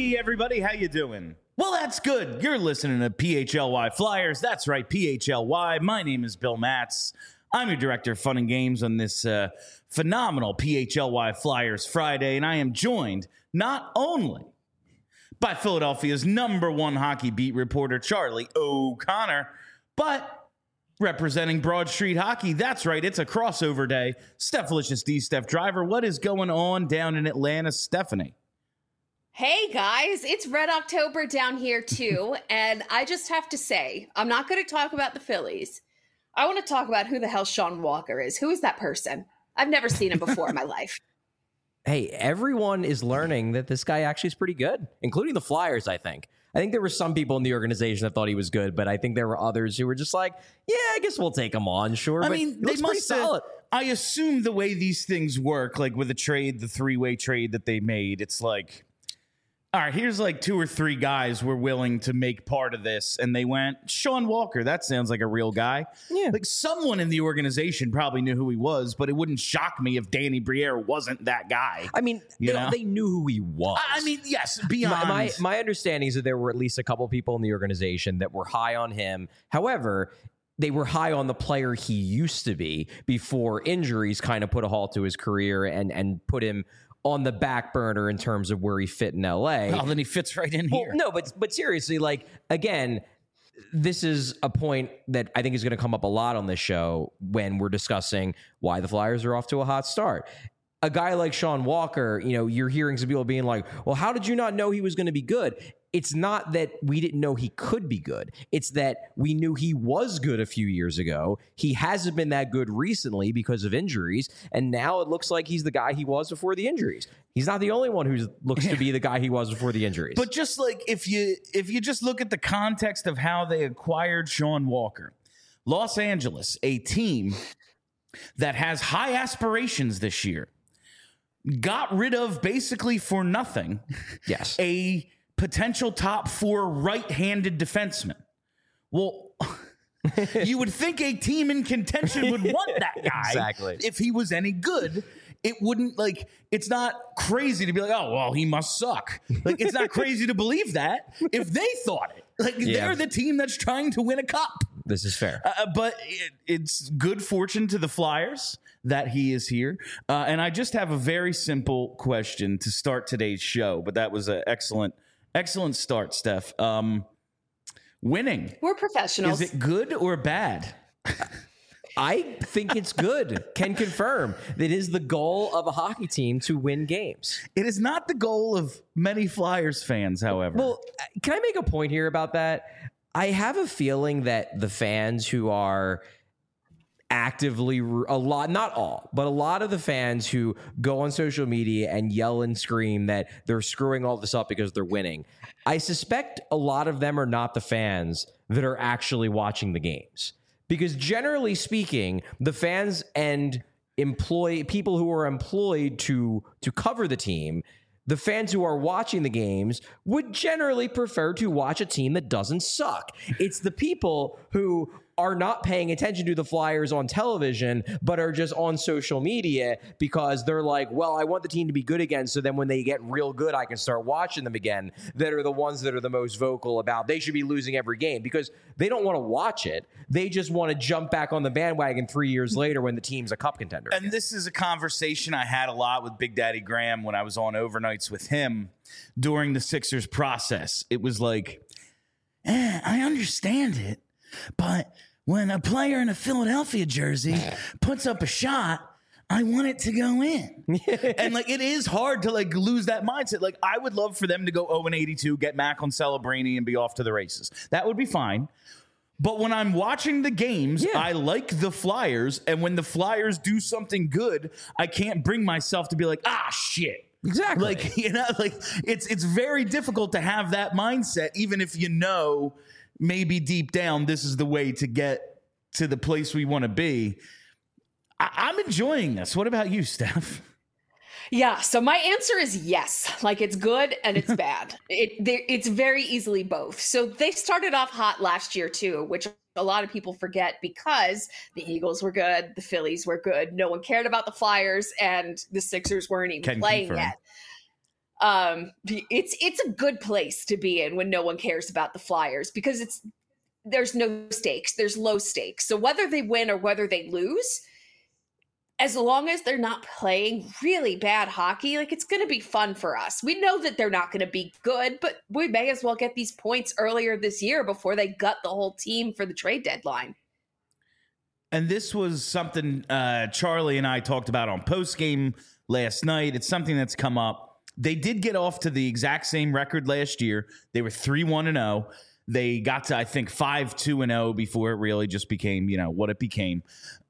Hey, everybody, how you doing? Well, that's good. You're listening to PHLY Flyers. That's right, PHLY. My name is Bill Matz. I'm your director of fun and games on this phenomenal PHLY Flyers Friday, and I am joined not only by Philadelphia's #1 hockey beat reporter, Charlie O'Connor, but representing Broad Street Hockey. That's right, it's a crossover day. Stephalicious D. Steph Driver, what is going on down in Atlanta, Stephanie? Hey guys, it's Red October down here too, and I just have to say, I'm not going to talk about the Phillies. I want to talk about who the hell Sean Walker is. Who is that person? I've never seen him before in my life. Hey, everyone is learning that this guy actually is pretty good, including the Flyers, I think. I think there were some people in the organization that thought he was good, but I think there were others who were just like, yeah, I guess we'll take him on, sure. I mean, they must have, I assume the way these things work, like with a trade, the three-way trade that they made, it's like, all right, here's like 2 or 3 guys we're willing to make part of this. And they went, Sean Walker, that sounds like a real guy. Yeah. Like someone in the organization probably knew who he was, but it wouldn't shock me if Danny Briere wasn't that guy. I mean, they knew who he was. I mean, yes, beyond. My understanding is that there were at least a couple people in the organization that were high on him. However, they were high on the player he used to be before injuries kind of put a halt to his career and put him on the back burner in terms of where he fit in LA. Well, then he fits right in here. No, but seriously, like, again, this is a point that I think is going to come up a lot on this show when we're discussing why the Flyers are off to a hot start. A guy like Sean Walker, you're hearing some people being like, well, how did you not know he was going to be good? It's not that we didn't know he could be good. It's that we knew he was good a few years ago. He hasn't been that good recently because of injuries. And now it looks like he's the guy he was before the injuries. He's not the only one who looks to be the guy he was before the injuries. But just like if you just look at the context of how they acquired Sean Walker, Los Angeles, a team that has high aspirations this year, got rid of basically for nothing. Yes. A potential top 4 right-handed defenseman. Well, you would think a team in contention would want that guy. Exactly. If he was any good. It wouldn't, like, it's not crazy to be like, oh, well, he must suck. Like, it's not crazy to believe that if they thought it. Like, they're the team that's trying to win a cup. This is fair. But it's good fortune to the Flyers that he is here. And I just have a very simple question to start today's show. But that was an excellent start, Steph. Winning. We're professionals. Is it good or bad? I think it's good. Can confirm. It is the goal of a hockey team to win games. It is not the goal of many Flyers fans, however. Well, can I make a point here about that? I have a feeling that the fans who are actively, not all, but a lot of the fans who go on social media and yell and scream that they're screwing all this up because they're winning, I suspect a lot of them are not the fans that are actually watching the games. Because generally speaking, the fans and people who are employed to cover the team, the fans who are watching the games would generally prefer to watch a team that doesn't suck. It's the people who are not paying attention to the Flyers on television, but are just on social media because they're like, well, I want the team to be good again, so then when they get real good, I can start watching them again, that are the ones that are the most vocal about they should be losing every game because they don't want to watch it. They just want to jump back on the bandwagon 3 years later when the team's a cup contender. And this is a conversation I had a lot with Big Daddy Graham when I was on overnights with him during the Sixers process. It was like, I understand it, but when a player in a Philadelphia jersey puts up a shot, I want it to go in. And like, it is hard to like lose that mindset. Like, I would love for them to go 0-82, get Mac on Celebrini and be off to the races. That would be fine. But when I'm watching the games, I like the Flyers. And when the Flyers do something good, I can't bring myself to be like, shit. Exactly. Like, like it's very difficult to have that mindset, even if you know maybe deep down this is the way to get to the place we want to be. I'm enjoying this. What about you, Steph? Yeah, so my answer is yes. Like, it's good and it's bad. It's very easily both. So they started off hot last year too, which a lot of people forget because the Eagles were good, the Phillies were good, no one cared about the Flyers, and the Sixers weren't even playing yet. It's a good place to be in when no one cares about the Flyers, because there's no stakes, there's low stakes. So whether they win or whether they lose, as long as they're not playing really bad hockey, like, it's going to be fun for us. We know that they're not going to be good, but we may as well get these points earlier this year before they gut the whole team for the trade deadline. And this was something Charlie and I talked about on postgame last night. It's something that's come up. They did get off to the exact same record last year. They were 3-1-0. They got to, I think, 5-2-0 before it really just became, what it became.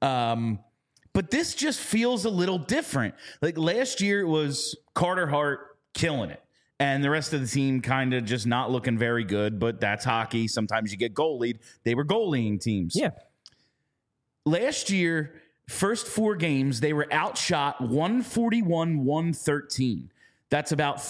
But this just feels a little different. Like, last year, it was Carter Hart killing it, and the rest of the team kind of just not looking very good. But that's hockey. Sometimes you get goalied. They were goalieing teams. Yeah. Last year, first 4 games, they were outshot 141-113. That's about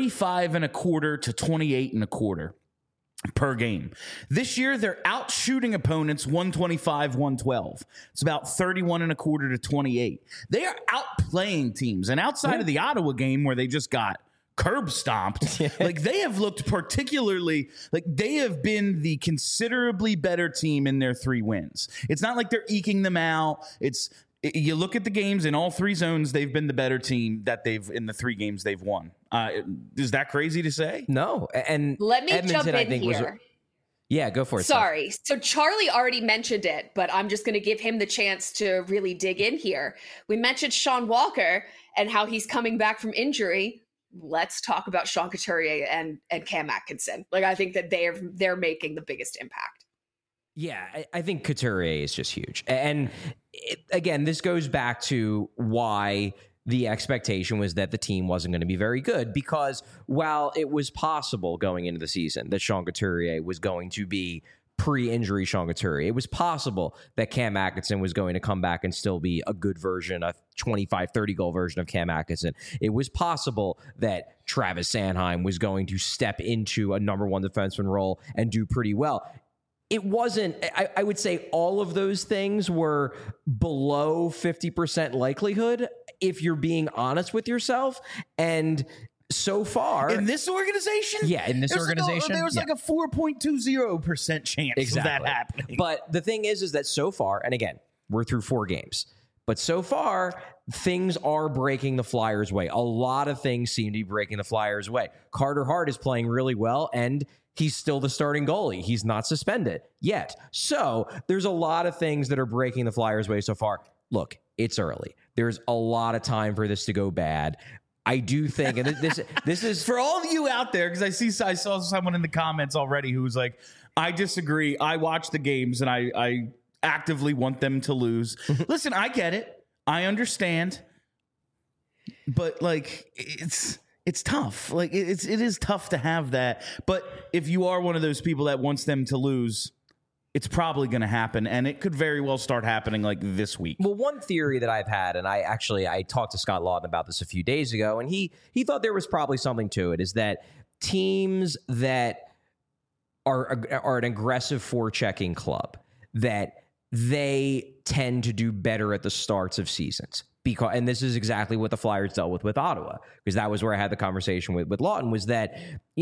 35.25 to 28.25 per game. This year, they're outshooting opponents 125-112. It's about 31.25 to 28. They are outplaying teams. And outside of the Ottawa game where they just got curb stomped, like, they have looked particularly like they have been the considerably better team in their 3 wins. It's not like they're eking them out. You look at the games in all 3 zones, they've been the better team that they've in the 3 games they've won. Is that crazy to say? No. And let me Edmonton, jump in I think, here. Yeah, go for it. Sorry. So Charlie already mentioned it, but I'm just going to give him the chance to really dig in here. We mentioned Sean Walker and how he's coming back from injury. Let's talk about Sean Couturier and Cam Atkinson. Like, I think that they're making the biggest impact. Yeah, I think Couturier is just huge. And again, this goes back to why the expectation was that the team wasn't going to be very good, because while it was possible going into the season that Sean Couturier was going to be pre-injury Sean Couturier, it was possible that Cam Atkinson was going to come back and still be a good version, a 25, 30-goal version of Cam Atkinson. It was possible that Travis Sanheim was going to step into a number 1 defenseman role and do pretty well. It wasn't, I would say all of those things were below 50% likelihood, if you're being honest with yourself. And so far in this organization, there was like a 4.20% chance of that happening. But the thing is that so far, and again, we're through 4 games, but so far things are breaking the Flyers' way. A lot of things seem to be breaking the Flyers' way. Carter Hart is playing really well, and he's still the starting goalie. He's not suspended yet. So there's a lot of things that are breaking the Flyers' way so far. Look, it's early. There's a lot of time for this to go bad. I do think, and this is for all of you out there, because I saw someone in the comments already who was like, I disagree. I watch the games and I actively want them to lose. Listen, I get it. I understand. But, like, it's tough. Like, it is tough to have that. But if you are one of those people that wants them to lose, it's probably going to happen, and it could very well start happening like this week. Well, one theory that I've had, and I talked to Scott Lawton about this a few days ago, and he thought there was probably something to it, is that teams that are an aggressive forechecking club, that they tend to do better at the starts of seasons. And this is exactly what the Flyers dealt with Ottawa, because that was where I had the conversation with Lawton, was that,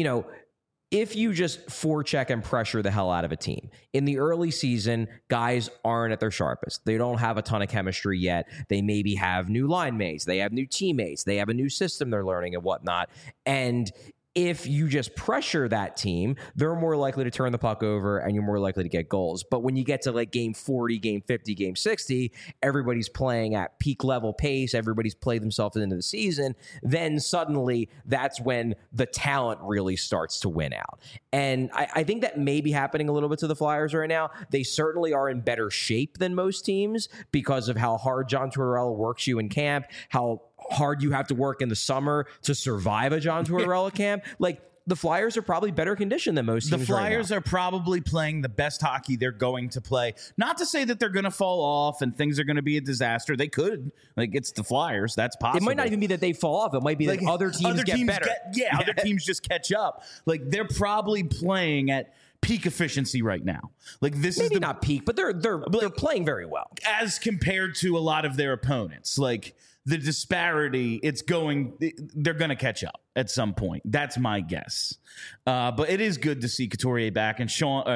if you just forecheck and pressure the hell out of a team in the early season, guys aren't at their sharpest. They don't have a ton of chemistry yet. They maybe have new line mates. They have new teammates. They have a new system they're learning and whatnot. And if you just pressure that team, they're more likely to turn the puck over and you're more likely to get goals. But when you get to like game 40, game 50, game 60, everybody's playing at peak level pace. Everybody's played themselves into the season. Then suddenly that's when the talent really starts to win out. And I think that may be happening a little bit to the Flyers right now. They certainly are in better shape than most teams because of how hard John Tortorella works you in camp, how hard you have to work in the summer to survive a John Tortorella camp. Like, the Flyers are probably better conditioned than most teams. The Flyers are probably playing the best hockey they're going to play. Not to say that they're going to fall off and things are going to be a disaster. They could. Like, it's the Flyers. That's possible. It might not even be that they fall off. It might be that other teams get better. Other teams just catch up. Like, they're probably playing at peak efficiency right now. Like, this maybe is not peak, but they're playing very well as compared to a lot of their opponents. Like, the disparity, they're going to catch up. at some point. That's my guess. But it is good to see Couturier back. And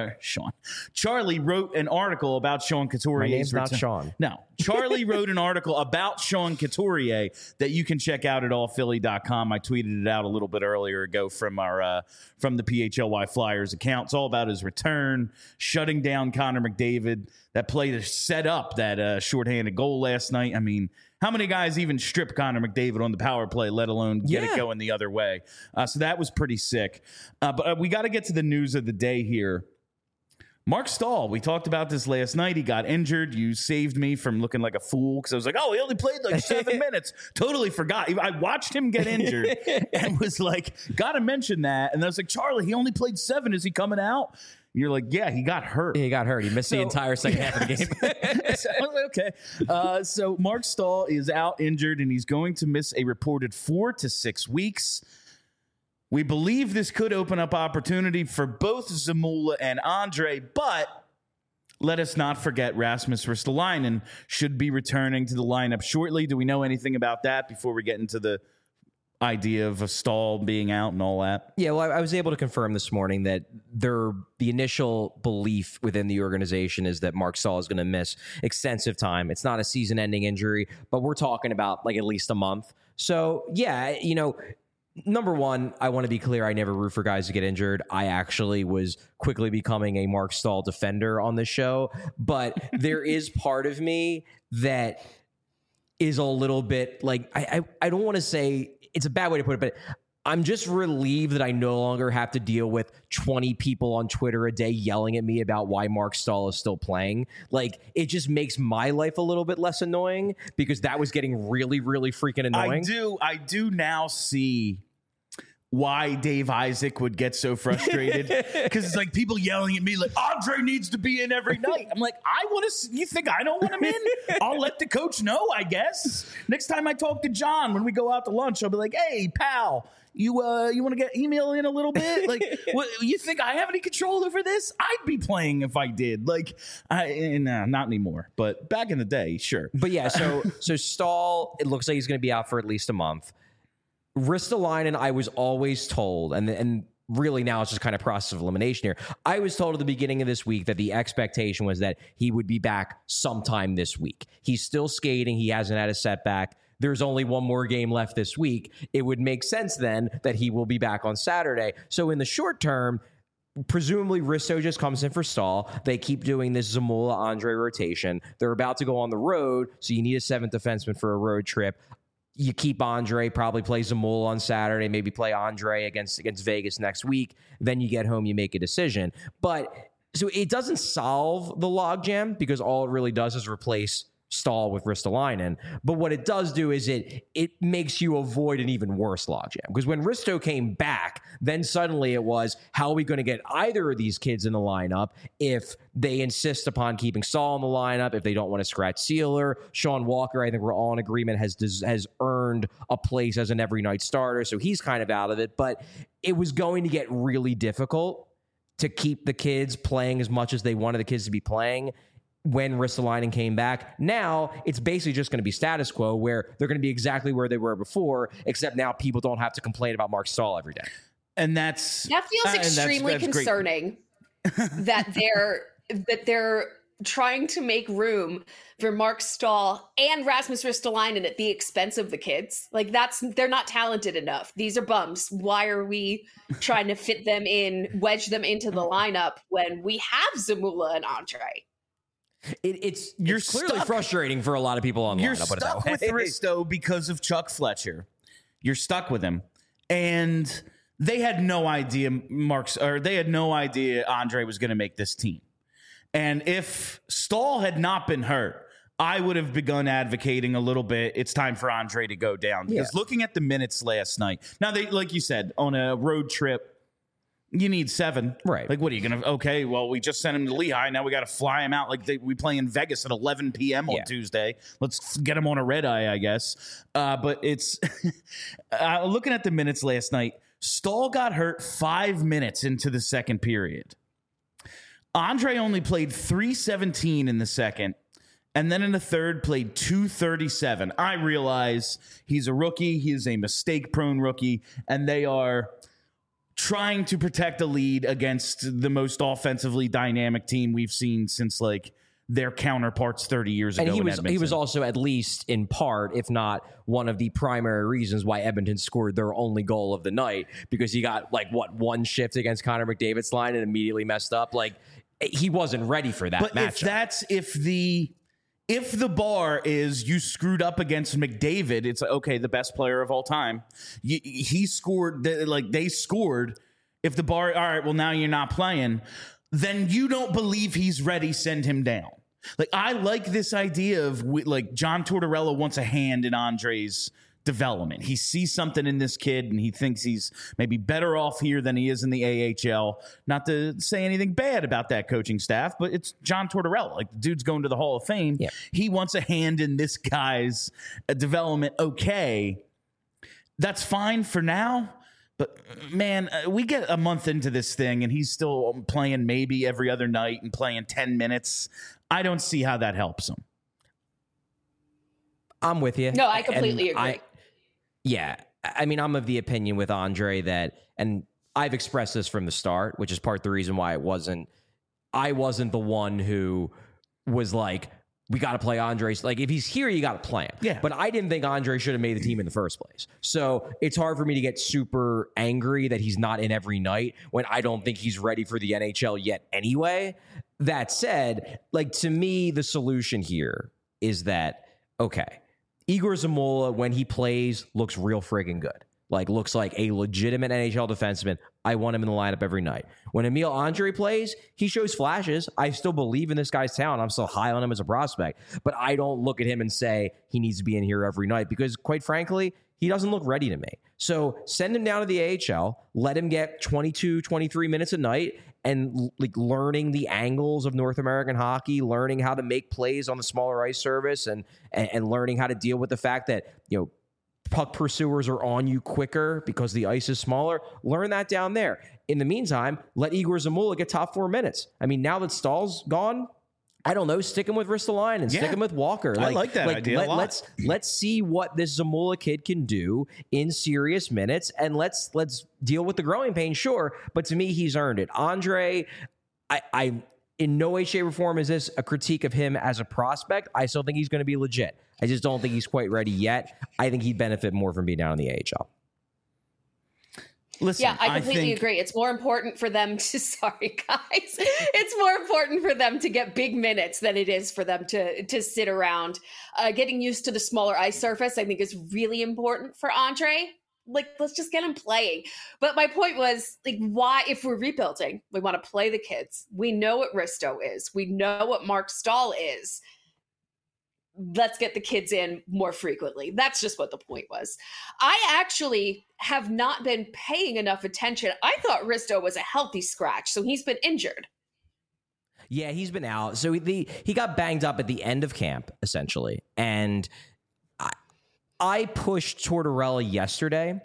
Charlie wrote an article about Sean Couturier's My name's not return. Sean. No, Charlie wrote an article about Sean Couturier that you can check out at allphilly.com. I tweeted it out a little bit earlier ago from our from the PHLY Flyers account. It's all about his return, shutting down Connor McDavid. That play to set up that shorthanded goal last night. I mean, how many guys even strip Connor McDavid on the power play, let alone get it going the other way? So that was pretty sick. But we got to get to the news of the day here. Mark Stahl, we talked about this last night. He got injured. You saved me from looking like a fool because I was like, oh, he only played like 7 minutes. Totally forgot. I watched him get injured and was like, got to mention that. And I was like, Charlie, he only played 7. Is he coming out? You're like, yeah, he got hurt. He got hurt. He missed the entire second half of the game. So I was like, okay. So Mark Stahl is out injured, and he's going to miss a reported 4 to 6 weeks. We believe this could open up opportunity for both Zamula and Andre, but let us not forget Rasmus Ristolainen should be returning to the lineup shortly. Do we know anything about that before we get into the idea of a Stahl being out and all that? Yeah, well, I was able to confirm this morning that the initial belief within the organization is that Mark Stahl is going to miss extensive time. It's not a season-ending injury, but we're talking about like at least a month. So, yeah, number one, I want to be clear. I never root for guys to get injured. I actually was quickly becoming a Mark Stahl defender on this show, but there is part of me that is a little bit like, I don't want to say, it's a bad way to put it, but I'm just relieved that I no longer have to deal with 20 people on Twitter a day yelling at me about why Mark Stahl is still playing. Like, it just makes my life a little bit less annoying because that was getting really, really freaking annoying. I do now see why Dave Isaac would get so frustrated because it's like people yelling at me like Andre needs to be in every night. I'm like, I want to. You think I don't want him in? I'll let the coach know, I guess. Next time I talk to John when we go out to lunch, I'll be like, hey, pal, you want to get email in a little bit? Like, what, you think I have any control over this? I'd be playing if I did. Like, not anymore. But back in the day, sure. But yeah, so Stahl, it looks like he's going to be out for at least a month. Ristolainen, I was always told, and really now it's just kind of process of elimination here. I was told at the beginning of this week that the expectation was that he would be back sometime this week. He's still skating. He hasn't had a setback. There's only one more game left this week. It would make sense then that he will be back on Saturday. So in the short term, presumably Risto just comes in for Stahl. They keep doing this Zamula-Andre rotation. They're about to go on the road, so you need a 7th defenseman for a road trip. You keep Andre, probably play Zamula on Saturday, maybe play Andre against Vegas next week. Then you get home, you make a decision. But so it doesn't solve the logjam because all it really does is replace Stahl with Ristolainen. But what it does do is it makes you avoid an even worse logjam. Because when Risto came back, then suddenly it was, how are we going to get either of these kids in the lineup if they insist upon keeping Stahl in the lineup, if they don't want to scratch Sealer? Sean Walker, I think we're all in agreement, has earned a place as an every night starter, so he's kind of out of it. But it was going to get really difficult to keep the kids playing as much as they wanted the kids to be playing when Ristolainen came back. Now it's basically just going to be status quo where they're going to be exactly where they were before, except now people don't have to complain about Mark Stahl every day. And that feels extremely concerning that they're trying to make room for Mark Stahl and Rasmus Ristolainen at the expense of the kids. Like, they're not talented enough. These are bums. Why are we trying to fit them in, wedge them into the lineup when we have Zamula and Andre? It's clearly frustrating for a lot of people online. You're stuck with Risto because of Chuck Fletcher. You're stuck with him, and they had no idea they had no idea Andre was going to make this team. And if Stahl had not been hurt, I would have begun advocating a little bit. It's time for Andre to go down because looking at the minutes last night. Now they, like you said, on a road trip, you need 7. Right. Like, what are you going to... Okay, well, we just sent him to Lehigh. Now we got to fly him out. Like, we play in Vegas at 11 p.m. on Tuesday. Let's get him on a red eye, I guess. But it's... looking at the minutes last night, Stahl got hurt 5 minutes into the second period. Andre only played 3:17 in the second. and then in the third played 237. I realize he's a rookie. He is a mistake-prone rookie, and they are trying to protect a lead against the most offensively dynamic team we've seen since like their counterparts 30 years ago. And he was also, at least in part, if not one of the primary reasons why Edmonton scored their only goal of the night, because he got like one shift against Connor McDavid's line and immediately messed up. Like, he wasn't ready for that matchup. If the bar is you screwed up against McDavid, it's okay, the best player of all time. He scored, they scored. If the bar, all right, well, now you're not playing, then you don't believe he's ready, send him down. Like, I like this idea of like John Tortorella wants a hand in Andre's development. He sees something in this kid and he thinks he's maybe better off here than he is in the AHL. Not to say anything bad about that coaching staff, but it's John Tortorella. Like, the dude's going to the Hall of Fame. Yeah. He wants a hand in this guy's development. Okay, that's fine for now. But, man, we get a month into this thing, and he's still playing maybe every other night and playing 10 minutes. I don't see how that helps him. I'm with you. No, I completely agree. I mean, I'm of the opinion with Andre that, and I've expressed this from the start, which is part of the reason why I wasn't the one who was like, we got to play Andre. Like, if he's here, you got to play him. Yeah. But I didn't think Andre should have made the team in the first place. So it's hard for me to get super angry that he's not in every night when I don't think he's ready for the NHL yet anyway. That said, like, to me, the solution here is that, okay, Igor Zamula, when he plays, looks real friggin' good. Like, looks like a legitimate NHL defenseman. I want him in the lineup every night. When Emil Andre plays, he shows flashes. I still believe in this guy's talent. I'm still high on him as a prospect. But I don't look at him and say he needs to be in here every night because, quite frankly, he doesn't look ready to me. So send him down to the AHL, let him get 22, 23 minutes a night, and like learning the angles of North American hockey, learning how to make plays on the smaller ice surface, and learning how to deal with the fact that, you know, puck pursuers are on you quicker because the ice is smaller. Learn that down there. In the meantime, let Igor Zamula get top 4 minutes. I mean, now that Stahl's gone, I don't know, stick him with Ristolainen and stick him with Walker. I like that idea a lot. Let's see what this Zamula kid can do in serious minutes, and let's deal with the growing pains, sure. But to me, he's earned it. Andre, I in no way, shape, or form is this a critique of him as a prospect. I still think he's going to be legit. I just don't think he's quite ready yet. I think he'd benefit more from being down in the AHL. Listen, yeah, I completely agree. It's more important for them to, sorry guys, it's more important for them to get big minutes than it is for them to sit around. Getting used to the smaller ice surface, I think, is really important for Andre. Like, let's just get him playing. But my point was, like, why, if we're rebuilding, we want to play the kids. We know what Risto is. We know what Mark Stahl is. Let's get the kids in more frequently. That's just what the point was. I actually have not been paying enough attention. I thought Risto was a healthy scratch, so he's been injured. Yeah, he's been out. So he got banged up at the end of camp, essentially. And I pushed Tortorella yesterday,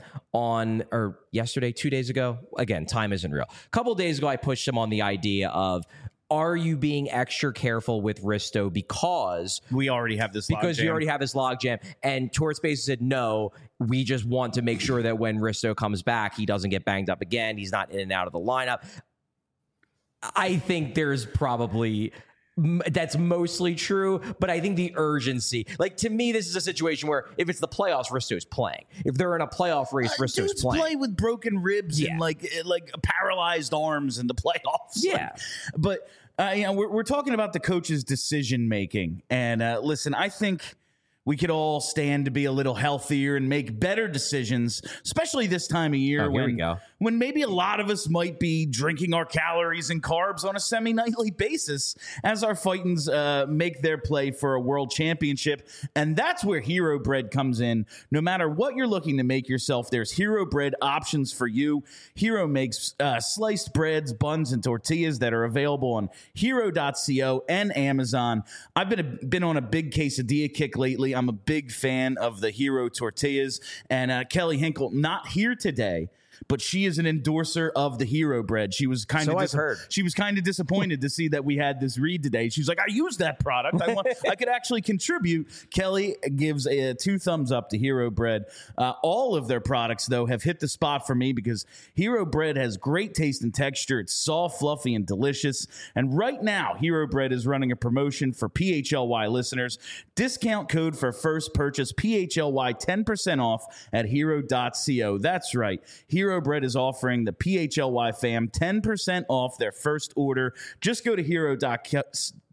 2 days ago. Again, time isn't real. A couple of days ago, I pushed him on the idea of, are you being extra careful with Risto because we already have this logjam? And Tortspace said, no, we just want to make sure that when Risto comes back, he doesn't get banged up again. He's not in and out of the lineup. I think there's probably... that's mostly true, but I think the urgency, like, to me, this is a situation where if it's the playoffs, Risto's playing. If they're in a playoff race, Risto's playing. Play with broken ribs and like paralyzed arms in the playoffs. Yeah, but we're talking about the coach's decision making, and listen, I think we could all stand to be a little healthier and make better decisions, especially this time of year when maybe a lot of us might be drinking our calories and carbs on a semi-nightly basis as our Fightins make their play for a world championship. And that's where Hero Bread comes in. No matter what you're looking to make yourself, there's Hero Bread options for you. Hero makes sliced breads, buns, and tortillas that are available on hero.co and Amazon. I've been on a big quesadilla kick lately. I'm a big fan of the Hero tortillas, and Kelly Hinkle, not here today, but she is an endorser of the Hero Bread. She was kind I've heard. She was kind of disappointed to see that we had this read today. She's like, I use that product. I could actually contribute. Kelly gives 2 thumbs up to Hero Bread. All of their products, though, have hit the spot for me because Hero Bread has great taste and texture. It's soft, fluffy, and delicious. And right now, Hero Bread is running a promotion for PHLY listeners. Discount code for first purchase, PHLY 10% off at hero.co. That's right. Hero Bread is offering the PHLY fam 10% off their first order. Just go to hero.co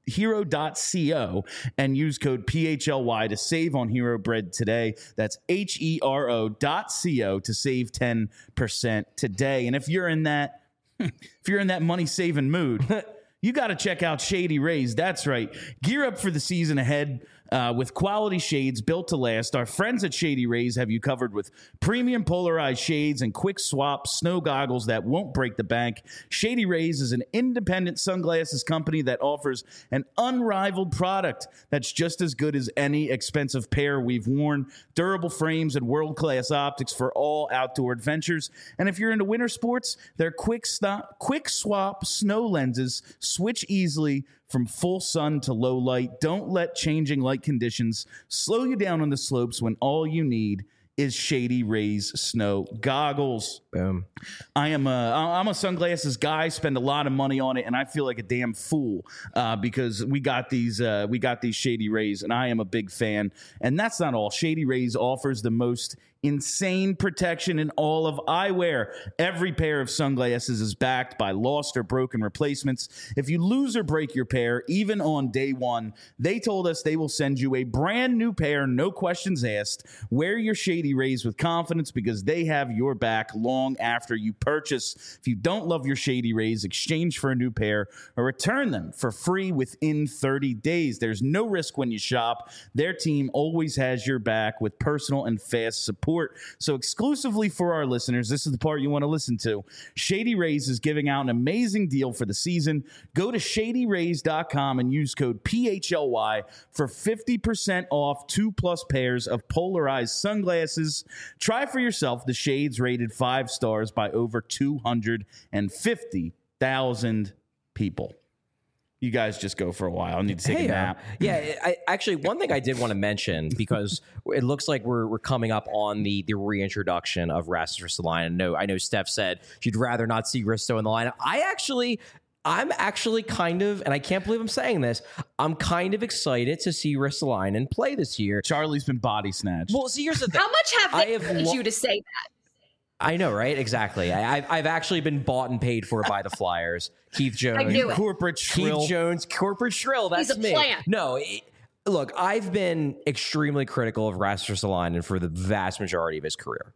and use code PHLY to save on Hero Bread today. That's HERO.co to save 10% today. And if you're in that money saving mood, you got to check out Shady Rays. That's right. Gear up for the season ahead with quality shades built to last. Our friends at Shady Rays have you covered with premium polarized shades and quick swap snow goggles that won't break the bank. Shady Rays is an independent sunglasses company that offers an unrivaled product that's just as good as any expensive pair we've worn. Durable frames and world-class optics for all outdoor adventures. And if you're into winter sports, their quick swap snow lenses switch easily from full sun to low light. Don't let changing light conditions slow you down on the slopes when all you need is Shady Rays snow goggles. Boom. I'm a sunglasses guy, spend a lot of money on it, and I feel like a damn fool because we got these Shady Rays, and I am a big fan. And that's not all. Shady Rays offers the most insane protection in all of eyewear. Every pair of sunglasses is backed by lost or broken replacements. If you lose or break your pair, even on day one, they told us they will send you a brand new pair, no questions asked. Wear your Shady Rays with confidence because they have your back long after you purchase. If you don't love your Shady Rays, exchange for a new pair or return them for free within 30 days. There's no risk when you shop. Their team always has your back with personal and fast support. So exclusively for our listeners, this is the part you want to listen to. Shady Rays is giving out an amazing deal for the season. Go to shadyrays.com and use code PHLY for 50% off 2+ pairs of polarized sunglasses. Try for yourself the shades rated 5 stars by over 250,000 people. You guys just go for a while. I need to take a nap. Yeah, actually, one thing I did want to mention, because it looks like we're coming up on the reintroduction of Rasmus Ristolainen. I know Steph said she'd rather not see Risto in the lineup. I'm actually kind of, and I can't believe I'm saying this, I'm kind of excited to see Ristolainen play this year. Charlie's been body snatched. Well, see, here's the thing. How much have they paid you to say that? I know, right? Exactly. I've actually been bought and paid for by the Flyers. Keith Jones. I knew it. Corporate shrill. Keith Jones, corporate shrill. That's He's a me. plant. No, look, I've been extremely critical of Rasmus Ristolainen for the vast majority of his career.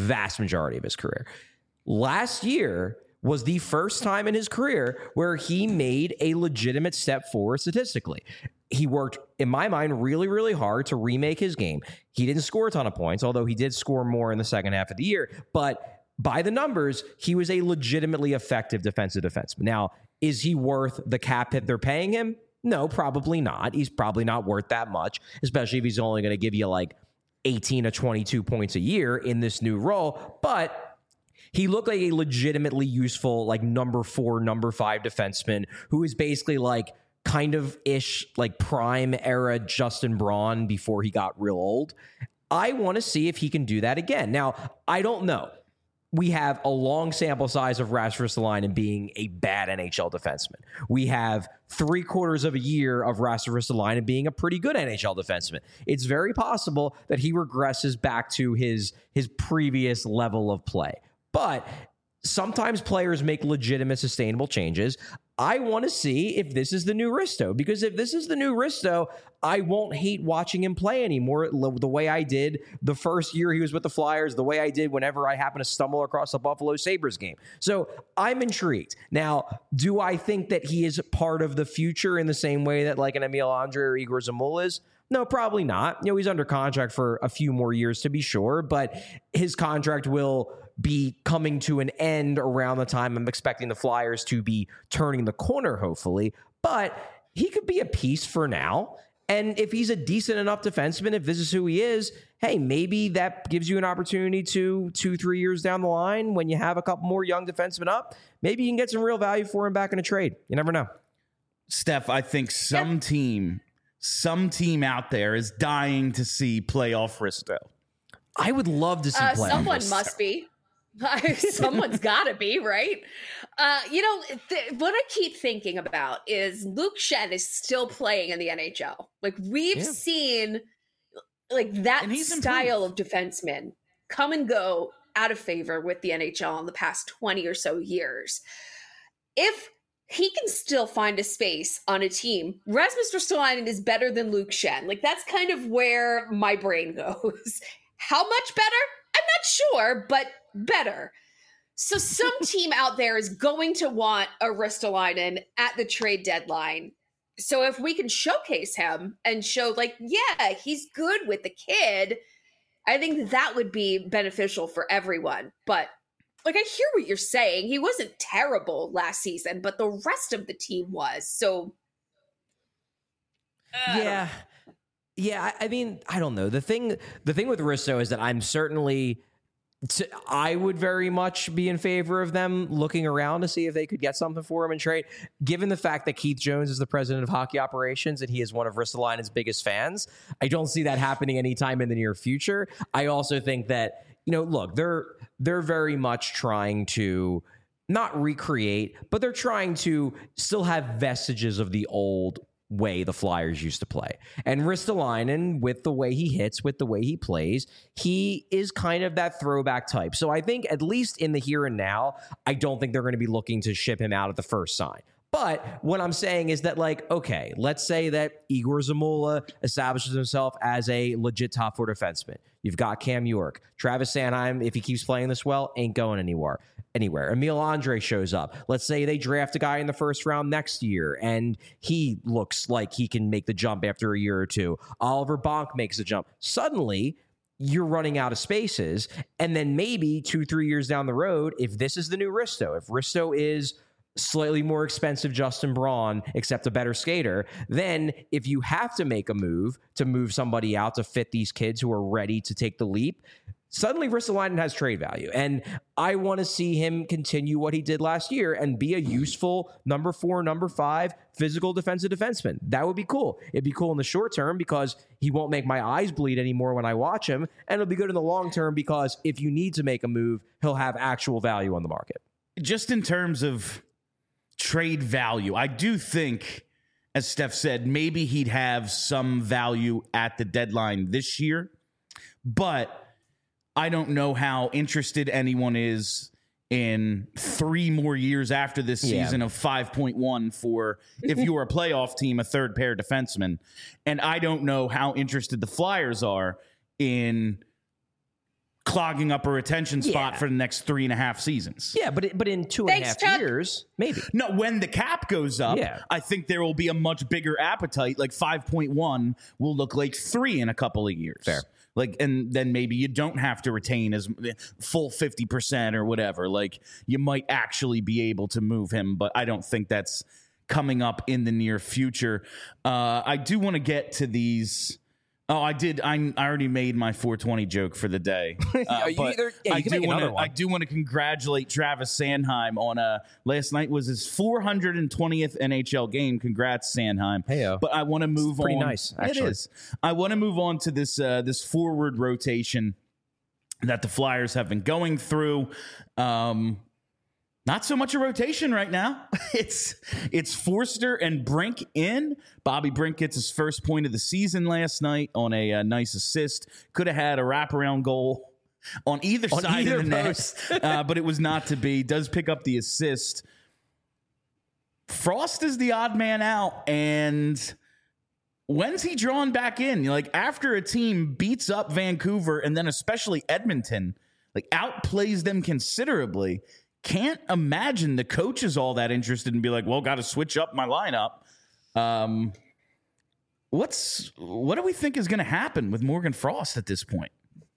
Last year was the first time in his career where he made a legitimate step forward statistically. He worked, in my mind, really, really hard to remake his game. He didn't score a ton of points, although he did score more in the second half of the year. But by the numbers, he was a legitimately effective defensive defenseman. Now, is he worth the cap hit they're paying him? No, probably not. He's probably not worth that much, especially if he's only going to give you like 18 to 22 points a year in this new role. But he looked like a legitimately useful, like number 4, number 5 defenseman who is basically like kind of ish, like prime era Justin Braun before he got real old. I want to see if he can do that again. Now, I don't know. We have a long sample size of Rasmus Ristolainen being a bad NHL defenseman. We have 3/4 of a year of Rasmus Ristolainen being a pretty good NHL defenseman. It's very possible that he regresses back to his previous level of play. But sometimes players make legitimate, sustainable changes. I want to see if this is the new Risto, because if this is the new Risto, I won't hate watching him play anymore the way I did the first year he was with the Flyers, the way I did whenever I happened to stumble across a Buffalo Sabres game. So I'm intrigued. Now, do I think that he is part of the future in the same way that like an Emil Andre or Igor Zamula is? No, probably not. You know, he's under contract for a few more years to be sure, but his contract will be coming to an end around the time I'm expecting the Flyers to be turning the corner, hopefully. But he could be a piece for now. And if he's a decent enough defenseman, if this is who he is, hey, maybe that gives you an opportunity to 2-3 years down the line when you have a couple more young defensemen up, maybe you can get some real value for him back in a trade. You never know. Steph, I think some team out there is dying to see playoff Risto. I would love to see playoff someone Risto. must be. Someone's got to be, right? What I keep thinking about is Luke Schenn is still playing in the NHL. Like, we've seen like that style of defenseman come and go out of favor with the NHL in the past 20 or so years. If he can still find a space on a team, Rasmus Ristolainen is better than Luke Schenn. Like, that's kind of where my brain goes. How much better? I'm not sure, but better. So some team out there is going to want a Ristolainen at the trade deadline. So if we can showcase him and show, like, yeah, he's good with the kid, I think that would be beneficial for everyone. But, like, I hear what you're saying. He wasn't terrible last season, but the rest of the team was. So, yeah. I mean, I don't know. The thing with Risto is that I'm certainly, I would very much be in favor of them looking around to see if they could get something for him and trade. Given the fact that Keith Jones is the president of hockey operations and he is one of Ristolainen's biggest fans, I don't see that happening anytime in the near future. I also think that, look, they're very much trying to not recreate, but they're trying to still have vestiges of the old way the Flyers used to play. And Ristolainen, with the way he hits, with the way he plays, he is kind of that throwback type. So I think at least in the here and now, I don't think they're going to be looking to ship him out at the first sign. But what I'm saying is that, like, okay, let's say that Igor Zamula establishes himself as a legit top four defenseman. You've got Cam York. Travis Sanheim, if he keeps playing this well, ain't going anywhere. Emil Andre shows up. Let's say they draft a guy in the first round next year, and he looks like he can make the jump after a year or two. Oliver Bonk makes a jump. Suddenly, you're running out of spaces, and then maybe 2-3 years down the road, if this is the new Risto, if Risto is slightly more expensive Justin Braun, except a better skater, then if you have to make a move to move somebody out to fit these kids who are ready to take the leap, suddenly Ristolainen has trade value. And I want to see him continue what he did last year and be a useful number 4, number 5 physical defensive defenseman. That would be cool. It'd be cool in the short term because he won't make my eyes bleed anymore when I watch him. And it'll be good in the long term because if you need to make a move, he'll have actual value on the market. Just in terms of trade value, I do think, as Steph said, maybe he'd have some value at the deadline this year, but I don't know how interested anyone is in 3 more years after this season of 5.1 for, if you're a playoff team, a third pair defenseman. And I don't know how interested the Flyers are in clogging up a retention spot for the next 3.5 seasons. Yeah, but in 2.5 years, maybe. No, when the cap goes up, I think there will be a much bigger appetite. Like 5.1 will look like 3 in a couple of years. Fair. Like, and then maybe you don't have to retain as full 50% or whatever. Like, you might actually be able to move him, but I don't think that's coming up in the near future. I do want to get to these. Oh, I did. I already made my 420 joke for the day. I do want to congratulate Travis Sanheim on last night was his 420th NHL game. Congrats, Sanheim. Heyo. But I want to move on. Pretty nice, actually. It is. I want to move on to this forward rotation that the Flyers have been going through. Not so much a rotation right now. It's Forster and Brink in. Bobby Brink gets his first point of the season last night on a nice assist. Could have had a wraparound goal on either side of the net, but it was not to be. Does pick up the assist. Frost is the odd man out, and when's he drawn back in? Like, after a team beats up Vancouver and then especially Edmonton, like outplays them considerably, can't imagine the coach is all that interested and be like, well, got to switch up my lineup. What do we think is going to happen with Morgan Frost at this point?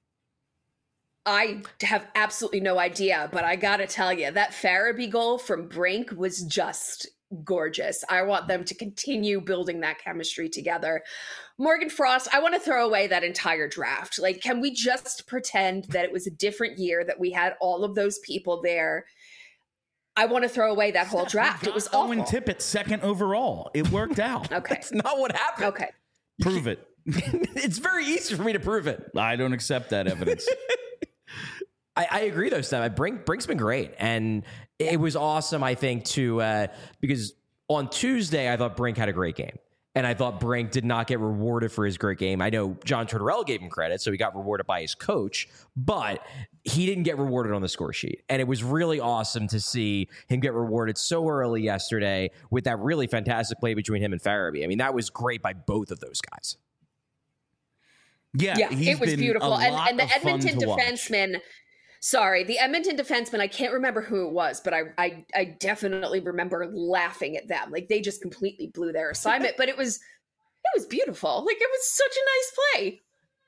I have absolutely no idea, but I got to tell you, that Farabee goal from Brink was just gorgeous. I want them to continue building that chemistry together. Morgan Frost, I want to throw away that entire draft. Like, can we just pretend that it was a different year, that we had all of those people there? I want to throw away that whole draft. It was awful. Owen Tippett second overall. It worked out. Okay. That's not what happened. Okay. Prove it. It's very easy for me to prove it. I don't accept that evidence. I agree, though, Steph. Brink's been great. And it was awesome, I think, because on Tuesday, I thought Brink had a great game. And I thought Brink did not get rewarded for his great game. I know John Tortorella gave him credit, so he got rewarded by his coach, but he didn't get rewarded on the score sheet. And it was really awesome to see him get rewarded so early yesterday with that really fantastic play between him and Farabee. I mean, that was great by both of those guys. Yeah, it was beautiful. And the Edmonton defenseman, the Edmonton defenseman, I can't remember who it was, but I definitely remember laughing at them. Like, they just completely blew their assignment, but it was beautiful. Like, it was such a nice play.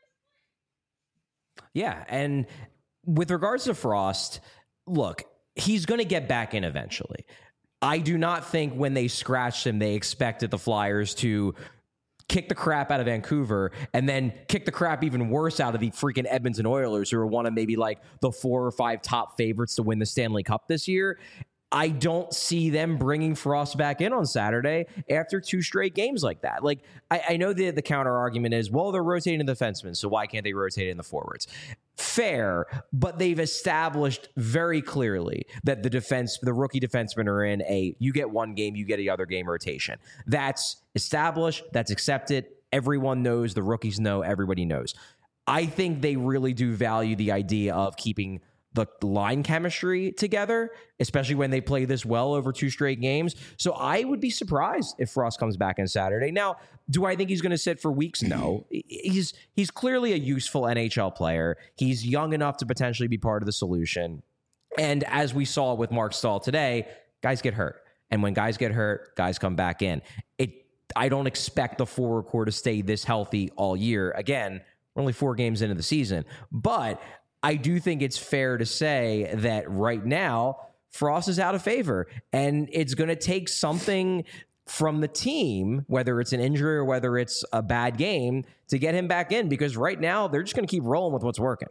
Yeah, and with regards to Frost, look, he's going to get back in eventually. I do not think when they scratched him, they expected the Flyers to kick the crap out of Vancouver and then kick the crap even worse out of the freaking Edmonton Oilers, who are one of maybe like the 4 or 5 top favorites to win the Stanley Cup this year. I don't see them bringing Frost back in on Saturday after 2 straight games like that. Like, I know the counter argument is, well, they're rotating the defensemen, so why can't they rotate in the forwards? Fair, but they've established very clearly that the rookie defensemen are in you get one game, you get the other game rotation. That's established, that's accepted. Everyone knows, the rookies know, everybody knows. I think they really do value the idea of keeping the line chemistry together, especially when they play this well over 2 straight games. So I would be surprised if Frost comes back on Saturday. Now, do I think he's going to sit for weeks? No. He's clearly a useful NHL player. He's young enough to potentially be part of the solution. And as we saw with Mark Stahl today, guys get hurt. And when guys get hurt, guys come back in. I don't expect the forward core to stay this healthy all year. Again, we're only 4 games into the season. But I do think it's fair to say that right now, Frost is out of favor, and it's going to take something from the team, whether it's an injury or whether it's a bad game, to get him back in, because right now they're just going to keep rolling with what's working.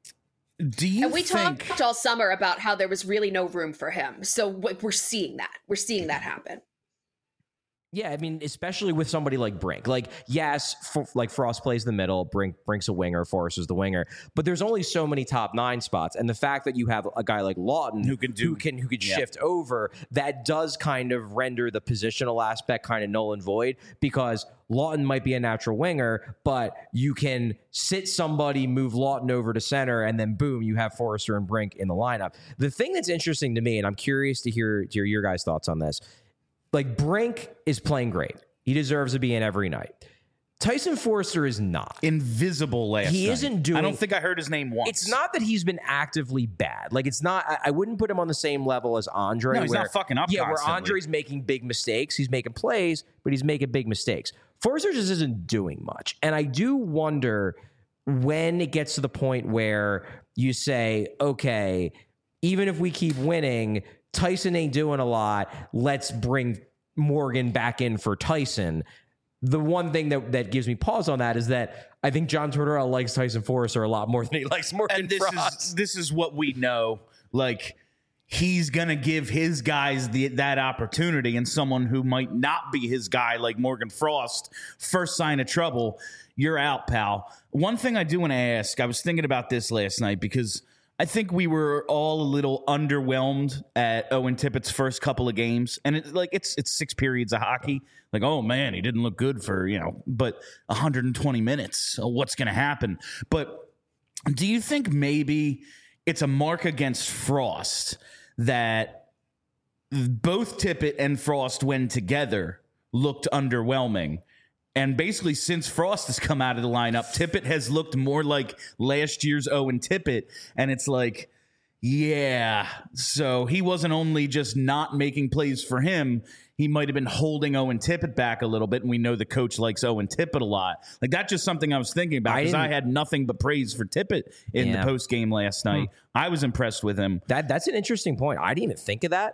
And we talked all summer about how there was really no room for him. So we're seeing that. We're seeing that happen. Yeah, I mean, especially with somebody like Brink. Like, yes, like Frost plays the middle, Brink's a winger, Forrest is the winger, but there's only so many top 9 spots, and the fact that you have a guy like Lawton who can shift over, that does kind of render the positional aspect kind of null and void, because Lawton might be a natural winger, but you can sit somebody, move Lawton over to center, and then boom, you have Forrester and Brink in the lineup. The thing that's interesting to me, and I'm curious to hear your guys' thoughts on this. Like, Brink is playing great. He deserves to be in every night. Tyson Forrester is not. Invisible last night. He isn't doing... I don't think I heard his name once. It's not that he's been actively bad. Like, it's not... I wouldn't put him on the same level as Andre. No, he's not fucking up constantly. Where Andre's making big mistakes. He's making plays, but he's making big mistakes. Forrester just isn't doing much. And I do wonder when it gets to the point where you say, okay, even if we keep winning... Tyson ain't doing a lot. Let's bring Morgan back in for Tyson. The one thing that gives me pause on that is that I think John Tortorella likes Tyson Forrester a lot more than he likes Morgan Frost. This is what we know. Like, he's going to give his guys that opportunity, and someone who might not be his guy, like Morgan Frost, first sign of trouble, you're out, pal. One thing I do want to ask, I was thinking about this last night because I think we were all a little underwhelmed at Owen Tippett's first couple of games. And it's 6 periods of hockey. Like, oh man, he didn't look good for, but 120 minutes. So what's going to happen? But do you think maybe it's a mark against Frost that both Tippett and Frost, when together, looked underwhelming? And basically, since Frost has come out of the lineup, Tippett has looked more like last year's Owen Tippett. And it's like, yeah. So he wasn't only just not making plays for him, he might have been holding Owen Tippett back a little bit. And we know the coach likes Owen Tippett a lot. Like, that's just something I was thinking about, because I had nothing but praise for Tippett in the post game last night. I was impressed with him. That's an interesting point. I didn't even think of that.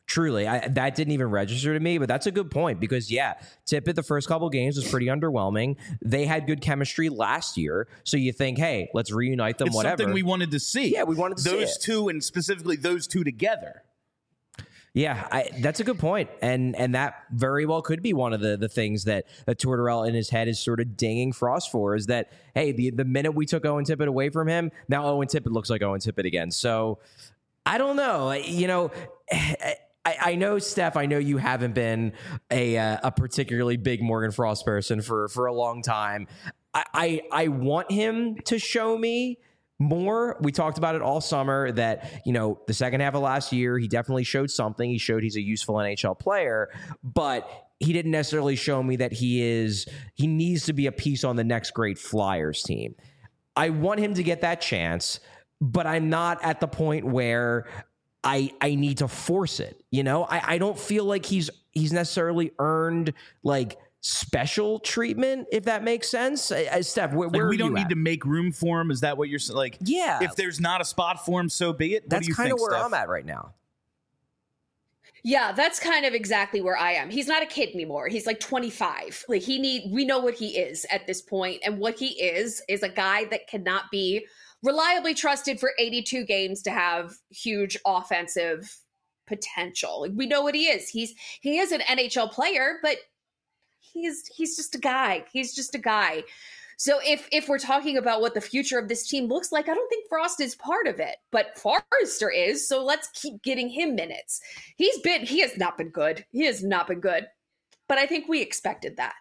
Truly, that didn't even register to me, but that's a good point because, yeah, Tippett the first couple games was pretty underwhelming. They had good chemistry last year, so you think, hey, let's reunite them, it's whatever. Something we wanted to see. Yeah, we wanted to see those it. two, and specifically those two together. Yeah, that's a good point. And that very well could be one of the things that Tortorella in his head is sort of dinging Frost for, is that, hey, the minute we took Owen Tippett away from him, now Owen Tippett looks like Owen Tippett again. So I don't know. You know, I know, Steph, I know you haven't been a particularly big Morgan Frost person for a long time. I want him to show me more. We talked about it all summer that, you know, the second half of last year, he definitely showed something. He showed he's a useful NHL player, but he didn't necessarily show me that he needs to be a piece on the next great Flyers team. I want him to get that chance, but I'm not at the point where I need to force it. You know, I don't feel like he's necessarily earned like special treatment, if that makes sense. Steph, where we don't need at? to make room for him. Is that what you're saying? Like, yeah, if there's not a spot for him, so be it. That's kind of where Steph? I'm at right now. Yeah, that's kind of exactly where I am. He's not a kid anymore. He's like 25. Like we know what he is at this point, and what he is a guy that cannot be reliably trusted for 82 games to have huge offensive potential. Like, we know what he is. He is an NHL player, but he's just a guy. He's just a guy. So if we're talking about what the future of this team looks like, I don't think Frost is part of it, but Forrester is. So let's keep getting him minutes. He has not been good. He has not been good, but I think we expected that.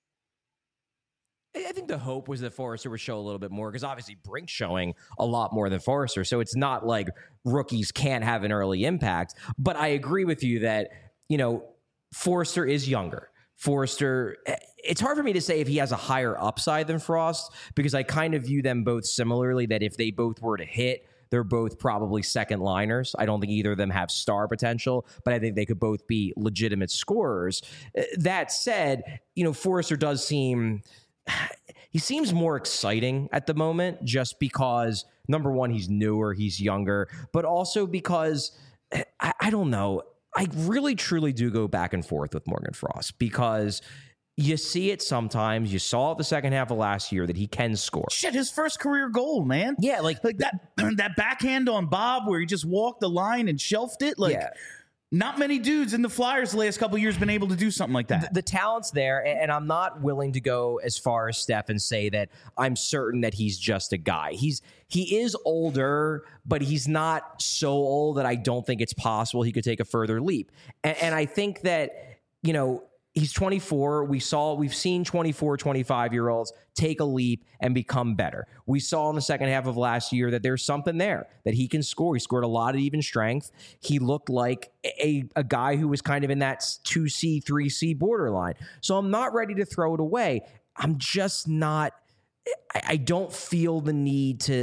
I think the hope was that Forrester would show a little bit more, because obviously Brink's showing a lot more than Forrester. So it's not like rookies can't have an early impact. But I agree with you that, you know, Forrester is younger. Forrester, it's hard for me to say if he has a higher upside than Frost, because I kind of view them both similarly, that if they both were to hit, they're both probably second liners. I don't think either of them have star potential, but I think they could both be legitimate scorers. That said, you know, Forrester does seem... he seems more exciting at the moment, just because, number one, he's newer, he's younger, but also because, I don't know, I really truly do go back and forth with Morgan Frost, because you see it sometimes. You saw it the second half of last year that he can score. Shit, his first career goal, man. Yeah, like that backhand on Bob where he just walked the line and shelved it. Like, yeah. Not many dudes in the Flyers the last couple of years been able to do something like that. The talent's there, and I'm not willing to go as far as Steph and say that I'm certain that he's just a guy. He is older, but he's not so old that I don't think it's possible he could take a further leap. And I think that, you know, he's 24. We've seen 24, 25-year-olds take a leap and become better. We saw in the second half of last year that there's something there, that he can score. He scored a lot of even strength. He looked like a guy who was kind of in that 2C, 3C borderline. So I'm not ready to throw it away. I'm just not, I don't feel the need to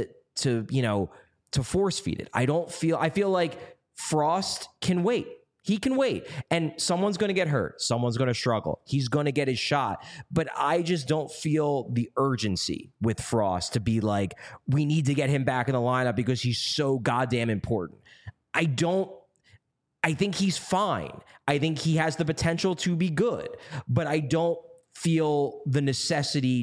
force feed it. I feel like Frost can wait. He can wait, and someone's going to get hurt. Someone's going to struggle. He's going to get his shot. But I just don't feel the urgency with Frost to be like, we need to get him back in the lineup because he's so goddamn important. I think he's fine. I think he has the potential to be good, but I don't feel the necessity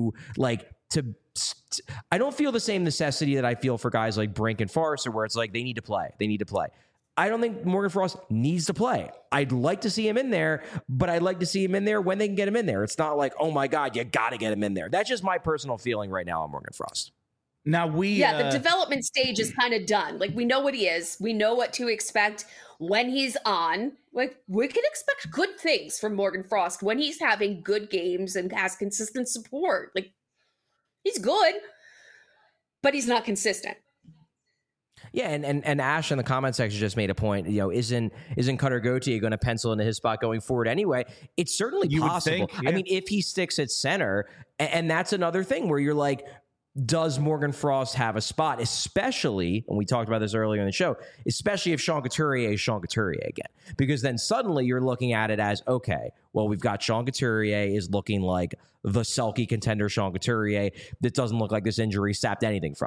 I don't feel the same necessity that I feel for guys like Brink and Forrester, where it's like they need to play. They need to play. I don't think Morgan Frost needs to play. I'd like to see him in there, but I'd like to see him in there when they can get him in there. It's not like, oh my God, you got to get him in there. That's just my personal feeling right now on Morgan Frost. Now the development stage is kind of done. Like, we know what he is. We know what to expect when he's on. Like, we can expect good things from Morgan Frost when he's having good games and has consistent support. Like, he's good, but he's not consistent. Yeah, and Ash in the comment section just made a point. You know, isn't Cutter Gauthier going to pencil into his spot going forward anyway? It's certainly possible. Think, yeah. I mean, if he sticks at center, and that's another thing where you're like, does Morgan Frost have a spot? Especially, and we talked about this earlier in the show, especially if Sean Couturier is Sean Couturier again, because then suddenly you're looking at it as, okay, well, we've got Sean Couturier is looking like the Selke contender Sean Couturier that doesn't look like this injury sapped anything from him.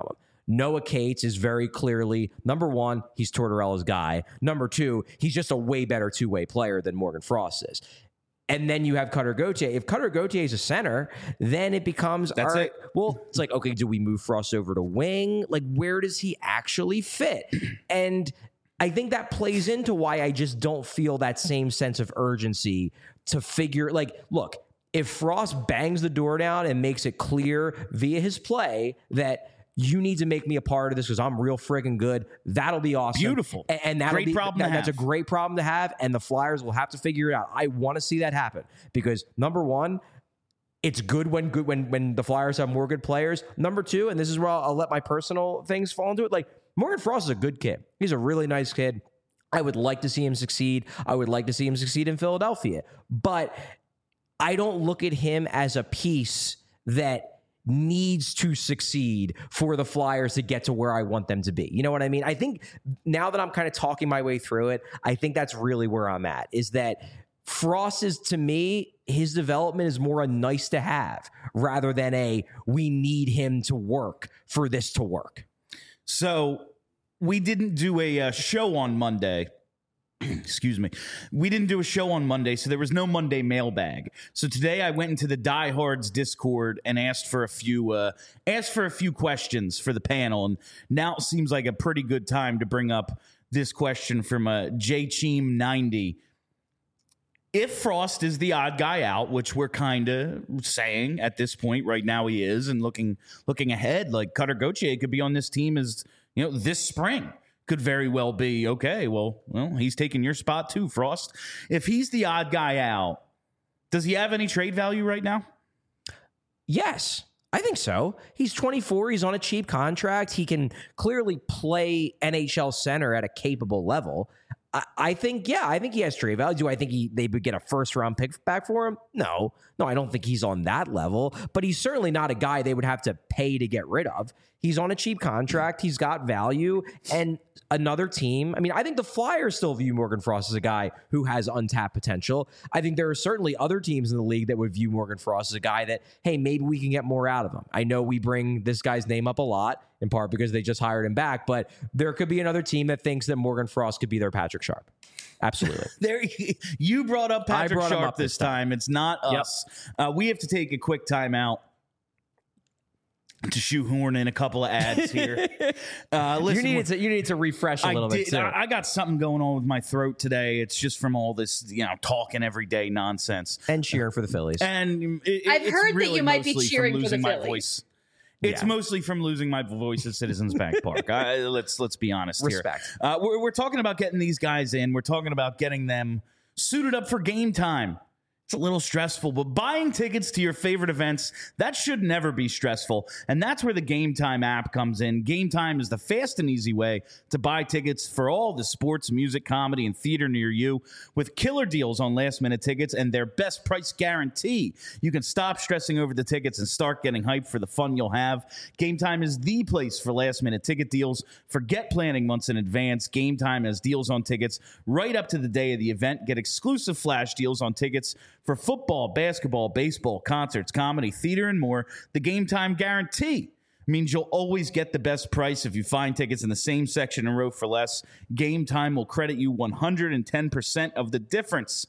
Noah Cates is very clearly, number one, he's Tortorella's guy. Number two, he's just a way better two-way player than Morgan Frost is. And then you have Cutter Gauthier. If Cutter Gauthier is a center, then it becomes, all right, well, it's like, okay, do we move Frost over to wing? Like, where does he actually fit? And I think that plays into why I just don't feel that same sense of urgency to figure, like, look, if Frost bangs the door down and makes it clear via his play that you need to make me a part of this because I'm real friggin' good, that'll be awesome. Beautiful. And that'll great be, problem to that's have. a great problem to have, and the Flyers will have to figure it out. I want to see that happen because, number one, it's good when the Flyers have more good players. Number two, and this is where I'll let my personal things fall into it, like, Morgan Frost is a good kid. He's a really nice kid. I would like to see him succeed. I would like to see him succeed in Philadelphia. But I don't look at him as a piece that needs to succeed for the Flyers to get to where I want them to be. You know what I mean? I think now that I'm kind of talking my way through it, I think that's really where I'm at, is that Frost is, to me, his development is more a nice to have rather than a we need him to work for this to work. So we didn't do a show on Monday. Excuse me. We didn't do a show on Monday, so there was no Monday mailbag. So today I went into the Diehards Discord and asked for a few questions for the panel. And now it seems like a pretty good time to bring up this question from JCheem90. If Frost is the odd guy out, which we're kind of saying at this point right now he is, and looking ahead, like Cutter Gauthier could be on this team as, this spring. Could very well be, okay, well, he's taking your spot too, Frost. If he's the odd guy out, does he have any trade value right now? Yes, I think so. He's 24. He's on a cheap contract. He can clearly play NHL center at a capable level. I think he has trade value. Do I think they would get a first-round pick back for him? No, I don't think he's on that level. But he's certainly not a guy they would have to pay to get rid of. He's on a cheap contract. He's got value. And another team, I mean, I think the Flyers still view Morgan Frost as a guy who has untapped potential. I think there are certainly other teams in the league that would view Morgan Frost as a guy that, hey, maybe we can get more out of him. I know we bring this guy's name up a lot, in part because they just hired him back, but there could be another team that thinks that Morgan Frost could be their Patrick Sharp. Absolutely. You brought up Patrick Sharp this time. It's not us. We have to take a quick timeout to shoehorn in a couple of ads here. Listen, you needed to refresh a little bit too. I got something going on with my throat today. It's just from all this, talking every day nonsense. And cheering for the Phillies. And I've heard really that you might be cheering for the Phillies. Voice. It's mostly from losing my voice at Citizens Bank Park. Let's be honest here. Respect. We're talking about getting these guys in. We're talking about getting them suited up for game time. It's a little stressful, but buying tickets to your favorite events, that should never be stressful. And that's where the Game Time app comes in. Game Time is the fast and easy way to buy tickets for all the sports, music, comedy, and theater near you with killer deals on last-minute tickets and their best price guarantee. You can stop stressing over the tickets and start getting hyped for the fun you'll have. Game Time is the place for last-minute ticket deals. Forget planning months in advance. Game Time has deals on tickets right up to the day of the event. Get exclusive flash deals on tickets for football, basketball, baseball, concerts, comedy, theater, and more. The Game Time guarantee means you'll always get the best price if you find tickets in the same section and row for less. Game Time will credit you 110% of the difference.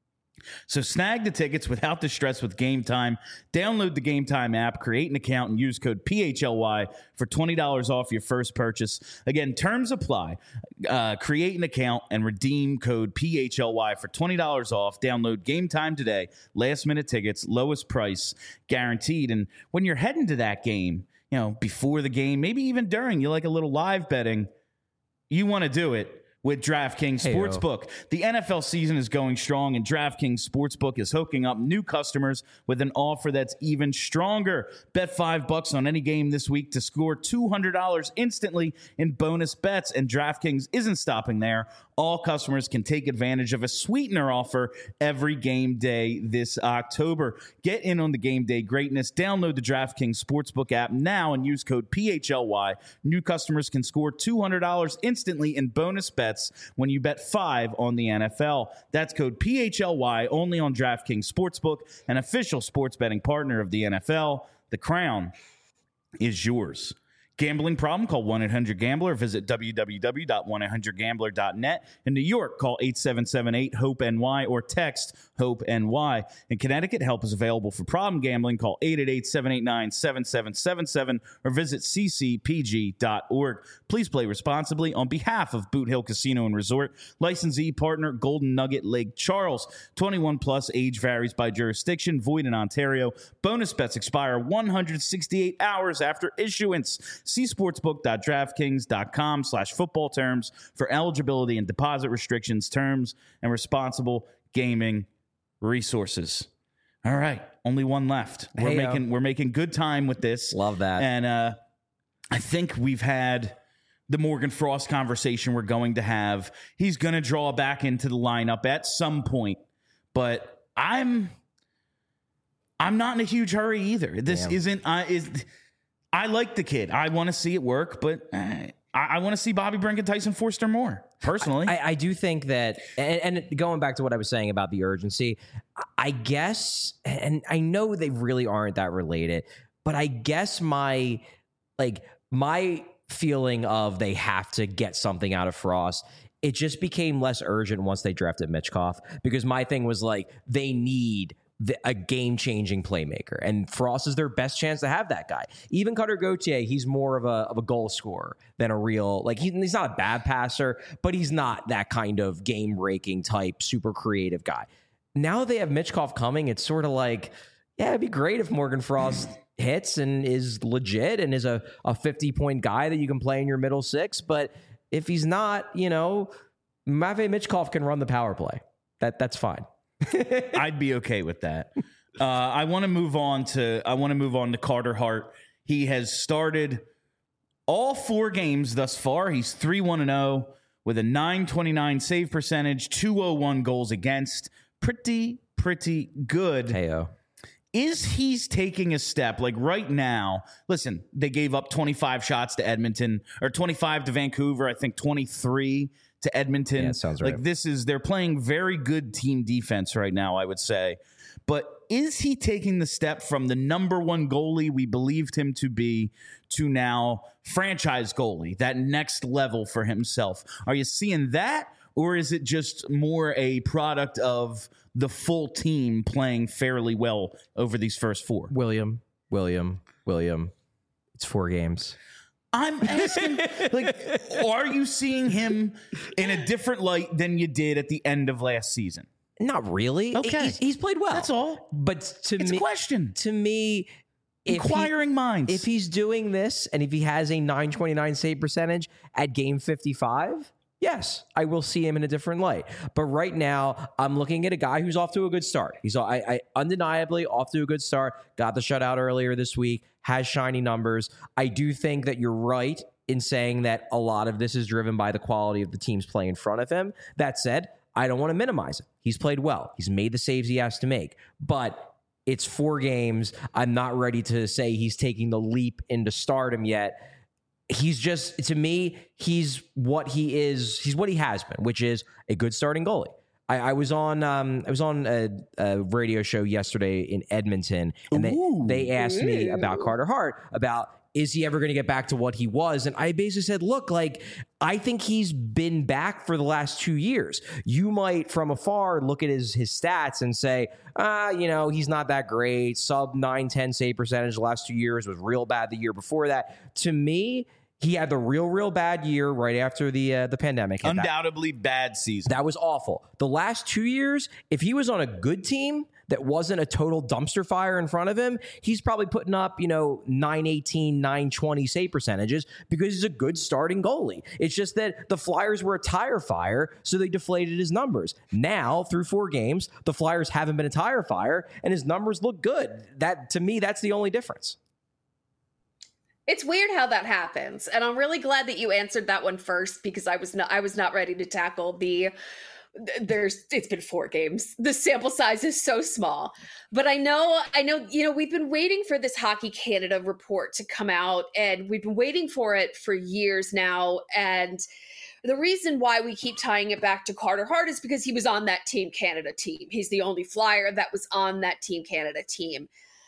So snag the tickets without the stress with Game Time. Download the Game Time app, create an account, and use code PHLY for $20 off your first purchase. Again, terms apply. Create an account and redeem code PHLY for $20 off. Download Game Time today. Last-minute tickets, lowest price, guaranteed. And when you're heading to that game, before the game, maybe even during, you like a little live betting, you want to do it with DraftKings Sportsbook. The NFL season is going strong, and DraftKings Sportsbook is hooking up new customers with an offer that's even stronger. Bet $5 on any game this week to score $200 instantly in bonus bets, and DraftKings isn't stopping there. All customers can take advantage of a sweetener offer every game day this October. Get in on the game day greatness. Download the DraftKings Sportsbook app now and use code PHLY. New customers can score $200 instantly in bonus bets when you bet $5 on the NFL. That's code PHLY only on DraftKings Sportsbook, an official sports betting partner of the NFL. The crown is yours. Gambling problem? Call 1-800-GAMBLER. Visit www.1800gambler.net. In New York, call 877-8-HOPE-NY or text HOPE-NY. In Connecticut, help is available for problem gambling. Call 888-789-7777 or visit ccpg.org. Please play responsibly. On behalf of Boot Hill Casino and Resort, licensee partner Golden Nugget Lake Charles. 21 plus, age varies by jurisdiction, void in Ontario. Bonus bets expire 168 hours after issuance. See sportsbook.draftkings.com/football terms for eligibility and deposit restrictions, terms, and responsible gaming resources. All right, only one left. We're making good time with this. Love that. And I think we've had the Morgan Frost conversation we're going to have. He's going to draw back into the lineup at some point, but I'm not in a huge hurry either. This isn't. I like the kid. I want to see it work, but I want to see Bobby Brink and Tyson Forster more, personally. I do think that, and going back to what I was saying about the urgency, I guess, and I know they really aren't that related, but I guess my feeling of they have to get something out of Frost, it just became less urgent once they drafted Mitchkov, because my thing was like, they need a game-changing playmaker, and Frost is their best chance to have that guy. Even Cutter Gauthier, he's more of a goal scorer than a real, like, he's not a bad passer, but he's not that kind of game-breaking type, super creative guy. Now they have Mitchkov coming, it's sort of like, yeah, it'd be great if Morgan Frost hits and is legit and is a 50-point guy that you can play in your middle six, but if he's not, Matvei Mitchkov can run the power play. That's fine. I'd be okay with that. I want to move on to Carter Hart. He has started all 4 games thus far. He's 3-1-0 with a .929 save percentage, 201 goals against. Pretty good. Heyo. Is he's taking a step like right now? Listen, they gave up 25 shots to Edmonton, or 25 to Vancouver. I think 23 to Edmonton. Yeah, sounds right. Like they're playing very good team defense right now, I would say. But is he taking the step from the number 1 goalie we believed him to be to now franchise goalie, that next level for himself? Are you seeing that? Or is it just more a product of the full team playing fairly well over these first 4? William. It's 4 games. I'm asking, are you seeing him in a different light than you did at the end of last season? Not really. Okay. He's played well. That's all. But It's a question. To me, Inquiring minds. If he's doing this and if he has a .929 save percentage at game 55, yes, I will see him in a different light. But right now, I'm looking at a guy who's off to a good start. He's undeniably off to a good start. Got the shutout earlier this week, has shiny numbers. I do think that you're right in saying that a lot of this is driven by the quality of the teams playing in front of him. That said, I don't want to minimize it. He's played well. He's made the saves he has to make. But it's 4 games. I'm not ready to say he's taking the leap into stardom yet. He's just, to me, he's what he is. He's what he has been, which is a good starting goalie. I was on a radio show yesterday in Edmonton, and they asked me about Carter Hart, about is he ever going to get back to what he was? And I basically said, look, I think he's been back for the last 2 years. You might, from afar, look at his stats and say, he's not that great. Sub 9-10 save percentage the last 2 years, was real bad the year before that. To me, he had the real bad year right after the pandemic. Undoubtedly bad season. That was awful. The last 2 years, if he was on a good team that wasn't a total dumpster fire in front of him, he's probably putting up, 918, 920 save percentages because he's a good starting goalie. It's just that the Flyers were a tire fire, so they deflated his numbers. Now, through 4 games, the Flyers haven't been a tire fire, and his numbers look good. That, to me, that's the only difference. It's weird how that happens, and I'm really glad that you answered that one first, because I was not ready to tackle it's been 4 games. The sample size is so small, but I know, we've been waiting for this Hockey Canada report to come out, and we've been waiting for it for years now. And the reason why we keep tying it back to Carter Hart is because he was on that Team Canada team. He's the only Flyer that was on that Team Canada team.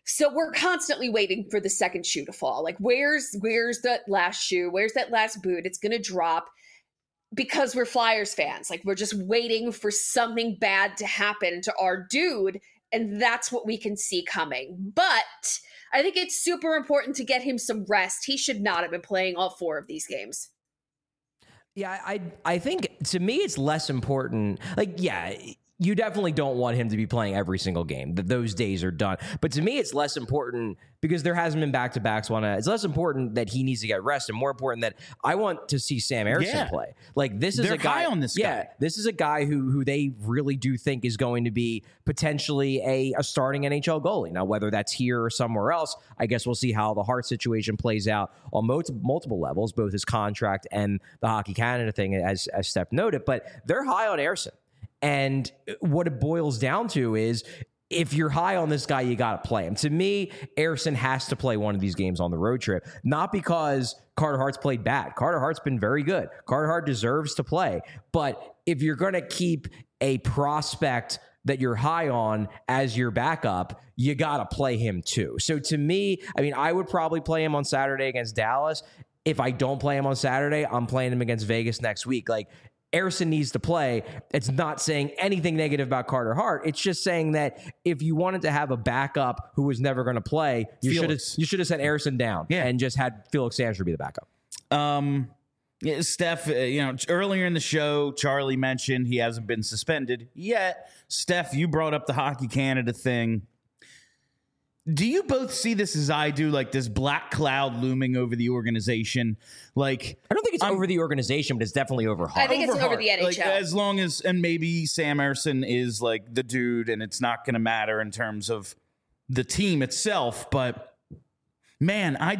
So we're constantly waiting for the second shoe to fall. Like, where's that last shoe? Where's that last boot? It's going to drop because we're Flyers fans. Like, we're just waiting for something bad to happen to our dude. And that's what we can see coming. But I think it's super important to get him some rest. He should not have been playing all 4 of these games. Yeah, I think to me it's less important. Like, yeah, you definitely don't want him to be playing every single game. Those days are done. But to me, it's less important because there hasn't been back-to-backs. It's less important that he needs to get rest and more important that I want to see Sam Ersson play. Like, this is They're a guy high on this guy. This is a guy who they really do think is going to be potentially a starting NHL goalie. Now, whether that's here or somewhere else, I guess we'll see how the Hart situation plays out on multiple levels, both his contract and the Hockey Canada thing, as Steph noted. But they're high on Ersson. And what it boils down to is if you're high on this guy, you got to play him. To me, Ersson has to play one of these games on the road trip, not because Carter Hart's played bad. Carter Hart's been very good. Carter Hart deserves to play. But if you're going to keep a prospect that you're high on as your backup, you got to play him too. So to me, I mean, I would probably play him on Saturday against Dallas. If I don't play him on Saturday, I'm playing him against Vegas next week. Like, Ersson needs to play. It's not saying anything negative about Carter Hart. It's just saying that if you wanted to have a backup who was never going to play, you should have sent Ersson down and just had Felix Sandstrom be the backup. Yeah, Steph, earlier in the show, Charlie mentioned he hasn't been suspended yet. Steph, you brought up the Hockey Canada thing. Do you both see this as I do, like this black cloud looming over the organization? Like, I don't think it's over the organization, but it's definitely over Hart. I think it's over the NHL. Like, as long as, and maybe Sam Ersson is like the dude, and it's not going to matter in terms of the team itself. But man, I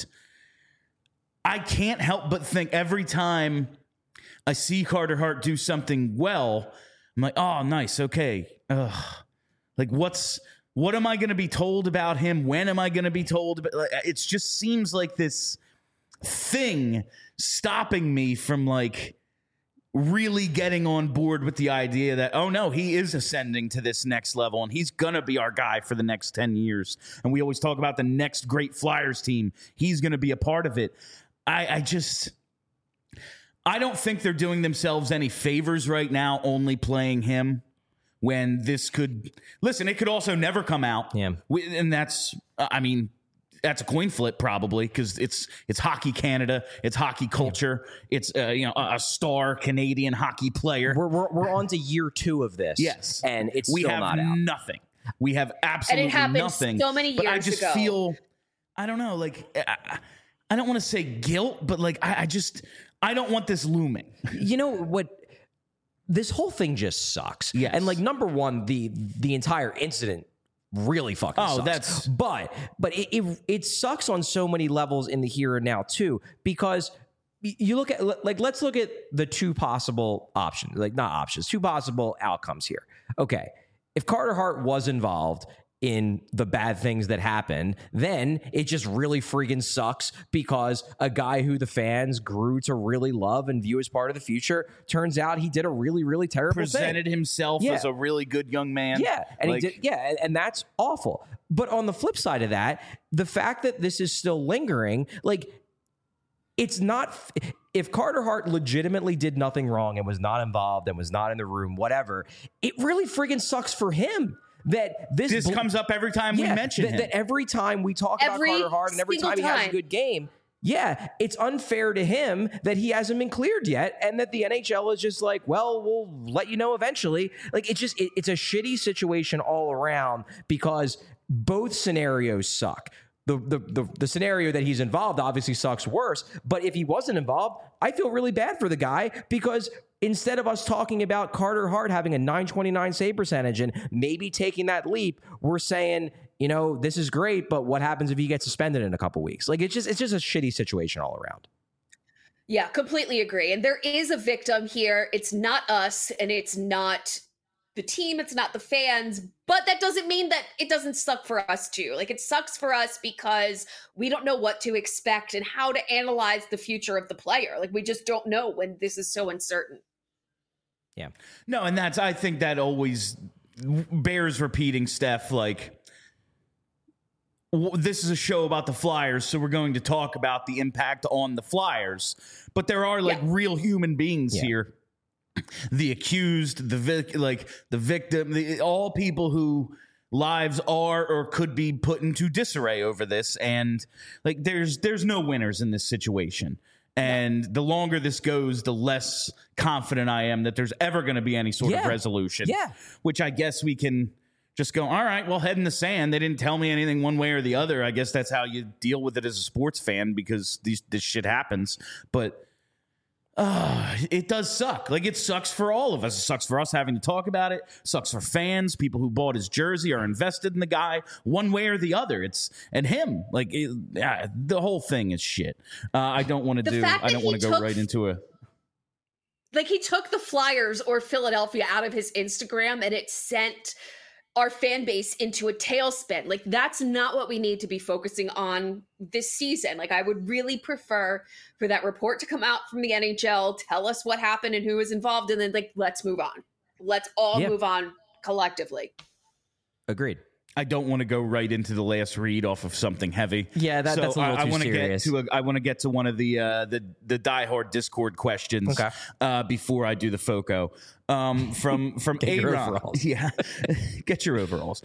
can't help but think every time I see Carter Hart do something well, I'm like, oh, nice, okay. Like, what am I going to be told about him? When am I going to be told? Like, it just seems like this thing stopping me from like really getting on board with the idea that, oh no, he is ascending to this next level and he's going to be our guy for the next 10 years. And we always talk about the next great Flyers team. He's going to be a part of it. I don't think they're doing themselves any favors right now, only playing him. When this could, listen, it could also never come out. Yeah. And that's, that's a coin flip probably because it's Hockey Canada, it's hockey culture, it's a star Canadian hockey player. We're on to year 2 of this. Yes, and it's still not out. Nothing. We have absolutely nothing. And it happened nothing. so many years ago. But I just feel, I don't know, like I don't want to say guilt, but like I don't want this looming. You know what? This whole thing just sucks. Yes. And like, number one, the entire incident really fucking sucks. But it sucks on so many levels in the here and now too, because you look at, like, let's look at the 2 possible options, like not options, 2 possible outcomes here. Okay. If Carter Hart was involved in the bad things that happened, then it just really freaking sucks because a guy who the fans grew to really love and view as part of the future, turns out he did a really, really terrible thing. Presented himself as a really good young man. Yeah. And he did, and that's awful. But on the flip side of that, the fact that this is still lingering, like, it's not, if Carter Hart legitimately did nothing wrong and was not involved and was not in the room, whatever, it really freaking sucks for him. That this comes up every time we mention him. That every time we talk about Carter Hart and every time he has a good game, it's unfair to him that he hasn't been cleared yet, and that the NHL is just like, well, we'll let you know eventually. Like, it's a shitty situation all around because both scenarios suck. The scenario that he's involved obviously sucks worse, but if he wasn't involved, I feel really bad for the guy because instead of us talking about Carter Hart having a .929 save percentage and maybe taking that leap, we're saying, this is great, but what happens if he gets suspended in a couple weeks? Like, it's just a shitty situation all around. Yeah, completely agree. And there is a victim here. It's not us, and it's not the team, it's not the fans, but that doesn't mean that it doesn't suck for us too. Like, it sucks for us because we don't know what to expect and how to analyze the future of the player. Like, we just don't know when this is so uncertain. Yeah. No, and I think that always bears repeating, Steph. Like, this is a show about the Flyers, so we're going to talk about the impact on the Flyers. But there are real human beings here. The accused, the victim, all people who lives are or could be put into disarray over this. And there's no winners in this situation. And the longer this goes, the less confident I am that there's ever going to be any sort of resolution. Yeah. Which I guess we can just go, all right, well, head in the sand. They didn't tell me anything one way or the other. I guess that's how you deal with it as a sports fan, because this shit happens. But it does suck. It sucks for all of us. It sucks for us having to talk about it. It sucks for fans. People who bought his jersey are invested in the guy one way or the other. And him. The whole thing is shit. I don't want to go right into a... he took the Flyers or Philadelphia out of his Instagram, and it sent our fan base into a tailspin. That's not what we need to be focusing on this season. I would really prefer for that report to come out from the NHL, tell us what happened and who was involved, and then let's move on. Let's all move on collectively. Agreed. I don't want to go right into the last read off of something heavy. Yeah, that's a little too serious. I want to get to one of the diehard Discord questions before I do the FOCO. From Aaron. Yeah, get your overalls.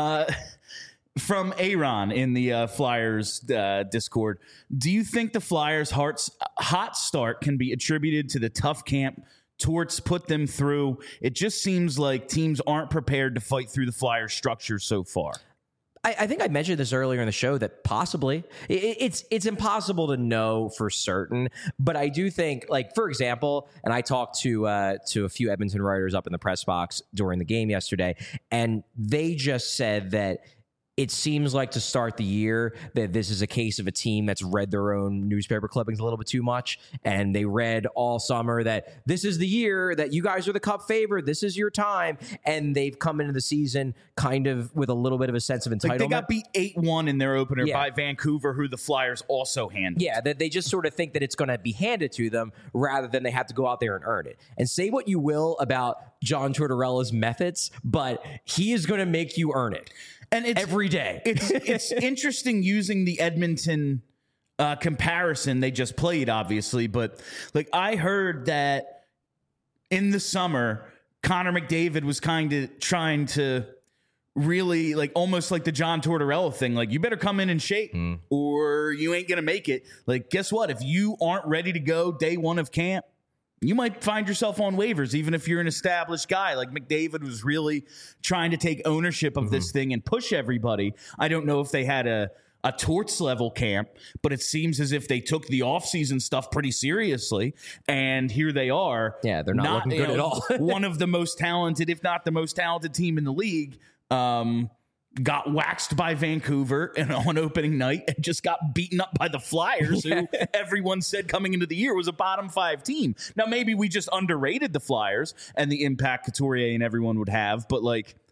From Aaron in the Flyers Discord. Do you think the Flyers' hot start can be attributed to the tough camp Torts put them through? It just seems like teams aren't prepared to fight through the Flyers structure so far. I think I mentioned this earlier in the show that possibly it's impossible to know for certain, but I do think, for example, and I talked to a few Edmonton writers up in the press box during the game yesterday, and they just said that it seems like to start the year that this is a case of a team that's read their own newspaper clippings a little bit too much. And they read all summer that this is the year that you guys are the Cup favorite. This is your time. And they've come into the season kind of with a little bit of a sense of entitlement. They got beat 8-1 in their opener by Vancouver, who the Flyers also handled. Yeah, that they just sort of think that it's going to be handed to them rather than they have to go out there and earn it. And say what you will about John Tortorella's methods, but he is going to make you earn it. And it's every day. It's interesting using the Edmonton comparison they just played, obviously. But I heard that in the summer, Connor McDavid was kind of trying to really almost like the John Tortorella thing. You better come in and shape or you ain't going to make it. Guess what? If you aren't ready to go day one of camp, you might find yourself on waivers, even if you're an established guy. McDavid was really trying to take ownership of this thing and push everybody. I don't know if they had a Torts level camp, but it seems as if they took the offseason stuff pretty seriously. And here they are. Yeah, they're not looking good at all. One of the most talented, if not the most talented team in the league. Got waxed by Vancouver on opening night and just got beaten up by the Flyers, who everyone said coming into the year was a bottom 5 team. Now, maybe we just underrated the Flyers and the impact Couturier and everyone would have, but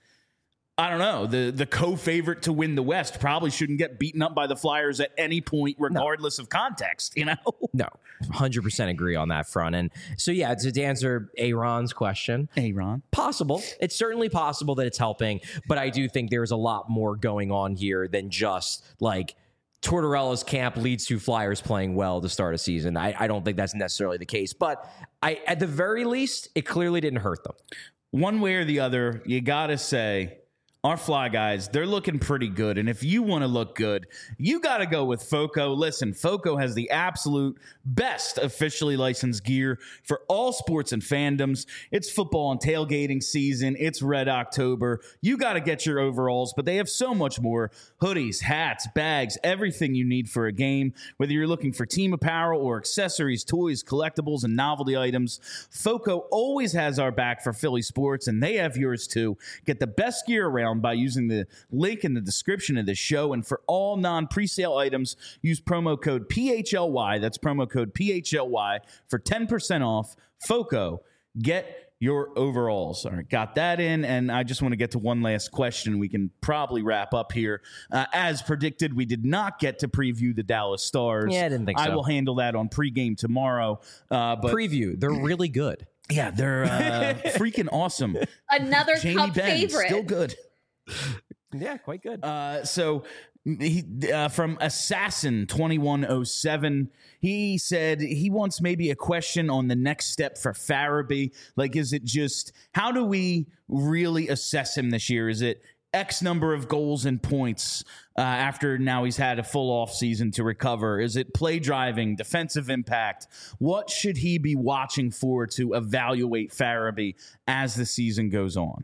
I don't know. The co-favorite to win the West probably shouldn't get beaten up by the Flyers at any point, regardless of context, No, 100% agree on that front. And so, to answer Aaron's question. Possible. It's certainly possible that it's helping, but I do think there's a lot more going on here than just Tortorella's camp leads to Flyers playing well to start a season. I don't think that's necessarily the case, but at the very least, it clearly didn't hurt them. One way or the other, you got to say, our Fly guys, they're looking pretty good. And if you want to look good, you got to go with FOCO. Listen, FOCO has the absolute best officially licensed gear for all sports and fandoms. It's football and tailgating season. It's Red October. You got to get your overalls, but they have so much more. Hoodies, hats, bags, everything you need for a game. Whether you're looking for team apparel or accessories, toys, collectibles, and novelty items, FOCO always has our back for Philly sports, and they have yours too. Get the best gear around by using the link in the description of this show. And for all non-presale items, use promo code PHLY. That's promo code PHLY for 10% off. FOCO, get your overalls. All right, got that in. And I just want to get to one last question. We can probably wrap up here. As predicted, we did not get to preview the Dallas Stars. Yeah, I didn't think so. I will handle that on pregame tomorrow. But preview, they're really good. Yeah, they're freaking awesome. Another Jamie Cup Benn, favorite. still good. Yeah, quite good. So From Assassin 2107, he said he wants maybe a question on the next step for Farabee. Like, is it just, how do we really assess him this year? Is it X number of goals and points after now he's had a full off season to recover? Is it play driving, defensive impact? What should he be watching for to evaluate Farabee as the season goes on?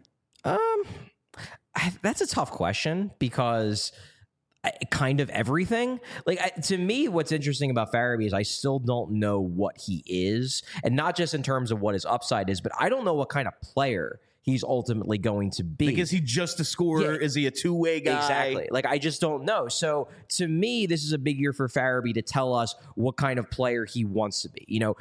That's a tough question because kind of everything. Like, to me, what's interesting about Farabee is I still don't know what he is, and not just in terms of what his upside is, but I don't know what kind of player he's ultimately going to be. Like, is he just a scorer? Yeah. Is he a two-way guy? Exactly. Like, I just don't know. So to me, this is a big year for Farabee to tell us what kind of player he wants to be. You know,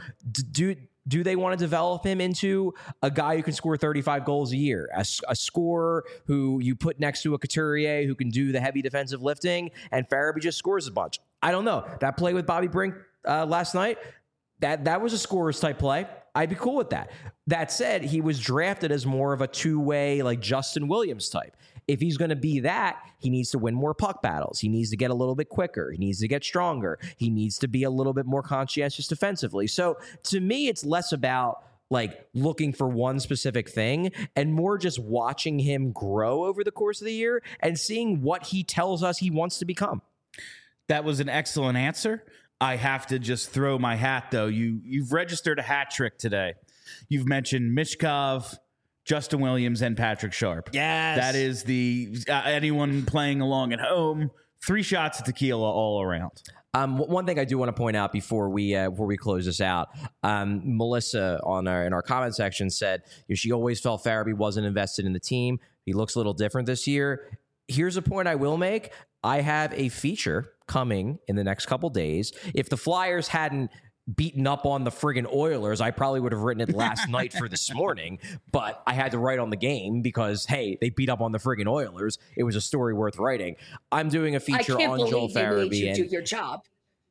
do they want to develop him into a guy who can score 35 goals a year, a scorer who you put next to a Couturier who can do the heavy defensive lifting, and Farabee just scores a bunch? I don't know. That play with Bobby Brink last night, that was a scorer's type play. I'd be cool with that. That said, he was drafted as more of a two-way, like Justin Williams type. If he's going to be that, he needs to win more puck battles. He needs to get a little bit quicker. He needs to get stronger. He needs to be a little bit more conscientious defensively. So to me, it's less about like looking for one specific thing and more just watching him grow over the course of the year and seeing what he tells us he wants to become. That was an excellent answer. I have to just throw my hat, though. You've registered a hat trick today. You've mentioned Michkov, Justin Williams, and Patrick Sharp. Yes. That is the anyone playing along at home, 3 shots of tequila all around. One thing I do want to point out before we close this out, Melissa in our comment section said she always felt Farabee wasn't invested in the team. He looks a little different this year. Here's a point I will make. I have a feature coming in the next couple days. If the Flyers hadn't beaten up on the friggin' Oilers, I probably would have written it last night for this morning, but I had to write on the game because, hey, they beat up on the friggin' Oilers. It was a story worth writing. I'm doing a feature on Joel Farabee. You do your job.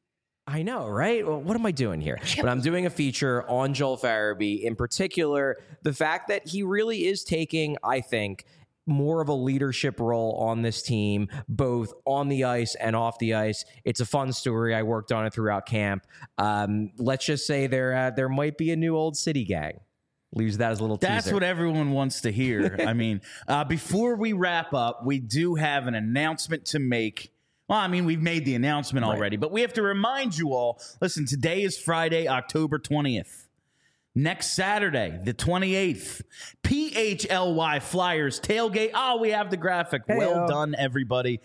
I know, right? Well, what am I doing here? But I'm doing a feature on Joel Farabee, in particular, the fact that he really is taking, I think, more of a leadership role on this team, both on the ice and off the ice. It's a fun story. I worked on it throughout camp. Let's just say there might be a new Old City gang. Use that as a little teaser. That's what everyone wants to hear. I mean, before we wrap up, we do have an announcement to make. Well, I mean, we've made the announcement already, but we have to remind you all, listen, today is Friday, October 20th. Next Saturday, the 28th, PHLY Flyers tailgate. Oh, we have the graphic. Hey, well done, everybody.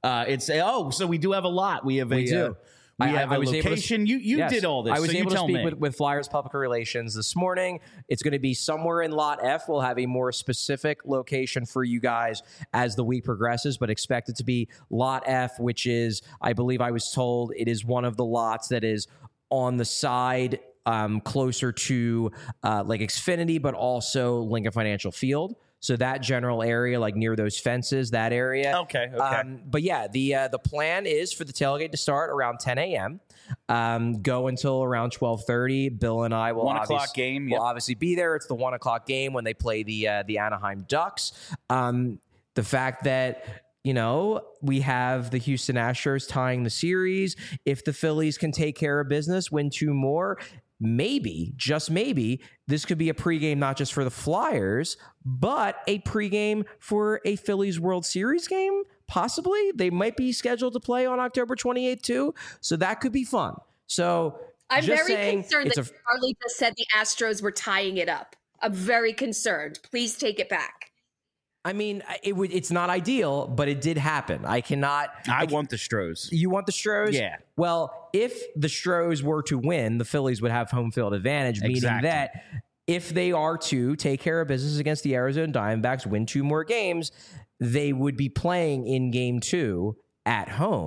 So we do have a lot. We have a location. You did all this. I was so able you to tell speak me. with Flyers Public Relations this morning. It's going to be somewhere in Lot F. We'll have a more specific location for you guys as the week progresses, but expect it to be Lot F, which is, I believe I was told, it is one of the lots that is on the side closer to like Xfinity, but also Lincoln Financial Field. So that general area, like near those fences, that area. Okay. But yeah, the plan is for the tailgate to start around 10 a.m., go until around 12:30. Bill and I will 1 o'clock game. Will obviously be there. It's the 1 o'clock game when they play the Anaheim Ducks. The fact that we have the Houston Astros tying the series. If the Phillies can take care of business, win 2 more, maybe, just maybe, this could be a pregame not just for the Flyers, but a pregame for a Phillies World Series game. Possibly. They might be scheduled to play on October 28th too. So that could be fun. So I'm very concerned that Charlie just said the Astros were tying it up. I'm very concerned. Please take it back. I mean, it's not ideal, but it did happen. I want the Stros. You want the Stros? Yeah. Well, if the Stros were to win, the Phillies would have home field advantage, meaning that if they are to take care of business against the Arizona Diamondbacks, win 2 more games, they would be playing in game 2 at home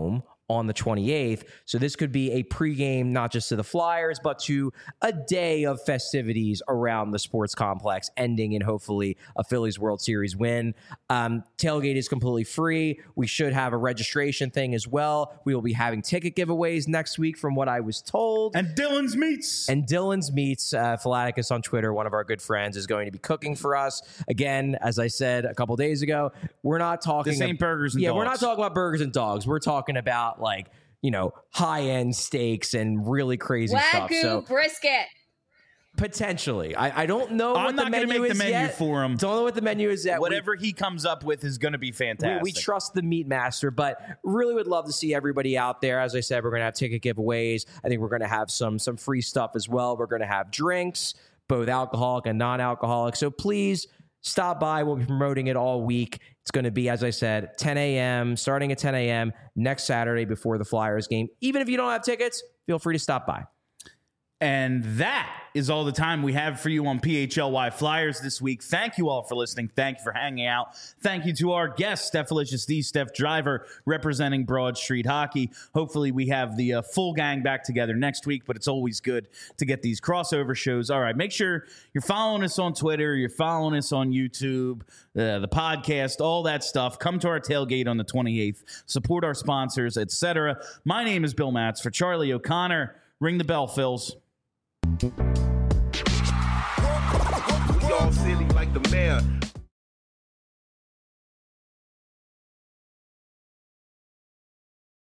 on the 28th. So this could be a pregame, not just to the Flyers, but to a day of festivities around the sports complex, ending in hopefully a Phillies World Series win. Tailgate is completely free. We should have a registration thing as well. We will be having ticket giveaways next week from what I was told. And Dylan's Meats. Philaticus on Twitter, one of our good friends, is going to be cooking for us. Again, as I said a couple days ago, we're not talking... This ain't burgers and dogs. We're not talking about burgers and dogs. We're talking about high-end steaks and really crazy stuff. Wagyu brisket. Potentially. I don't know I'm what not the going to menu make is the menu yet. for him. Don't know what the menu is yet. Whatever he comes up with is going to be fantastic. We trust the meat master, but really would love to see everybody out there. As I said, we're going to have ticket giveaways. I think we're going to have some free stuff as well. We're going to have drinks, both alcoholic and non-alcoholic. So please stop by. We'll be promoting it all week. It's going to be, as I said, 10 a.m., starting at 10 a.m. next Saturday before the Flyers game. Even if you don't have tickets, feel free to stop by. And that is all the time we have for you on PHLY Flyers this week. Thank you all for listening. Thank you for hanging out. Thank you to our guest, Stephalicious D, Steph Driver, representing Broad Street Hockey. Hopefully we have the full gang back together next week, but it's always good to get these crossover shows. All right, make sure you're following us on Twitter, you're following us on YouTube, the podcast, all that stuff. Come to our tailgate on the 28th. Support our sponsors, etc. My name is Bill Matz. For Charlie O'Connor, ring the bell, Phils. We all silly like the mayor.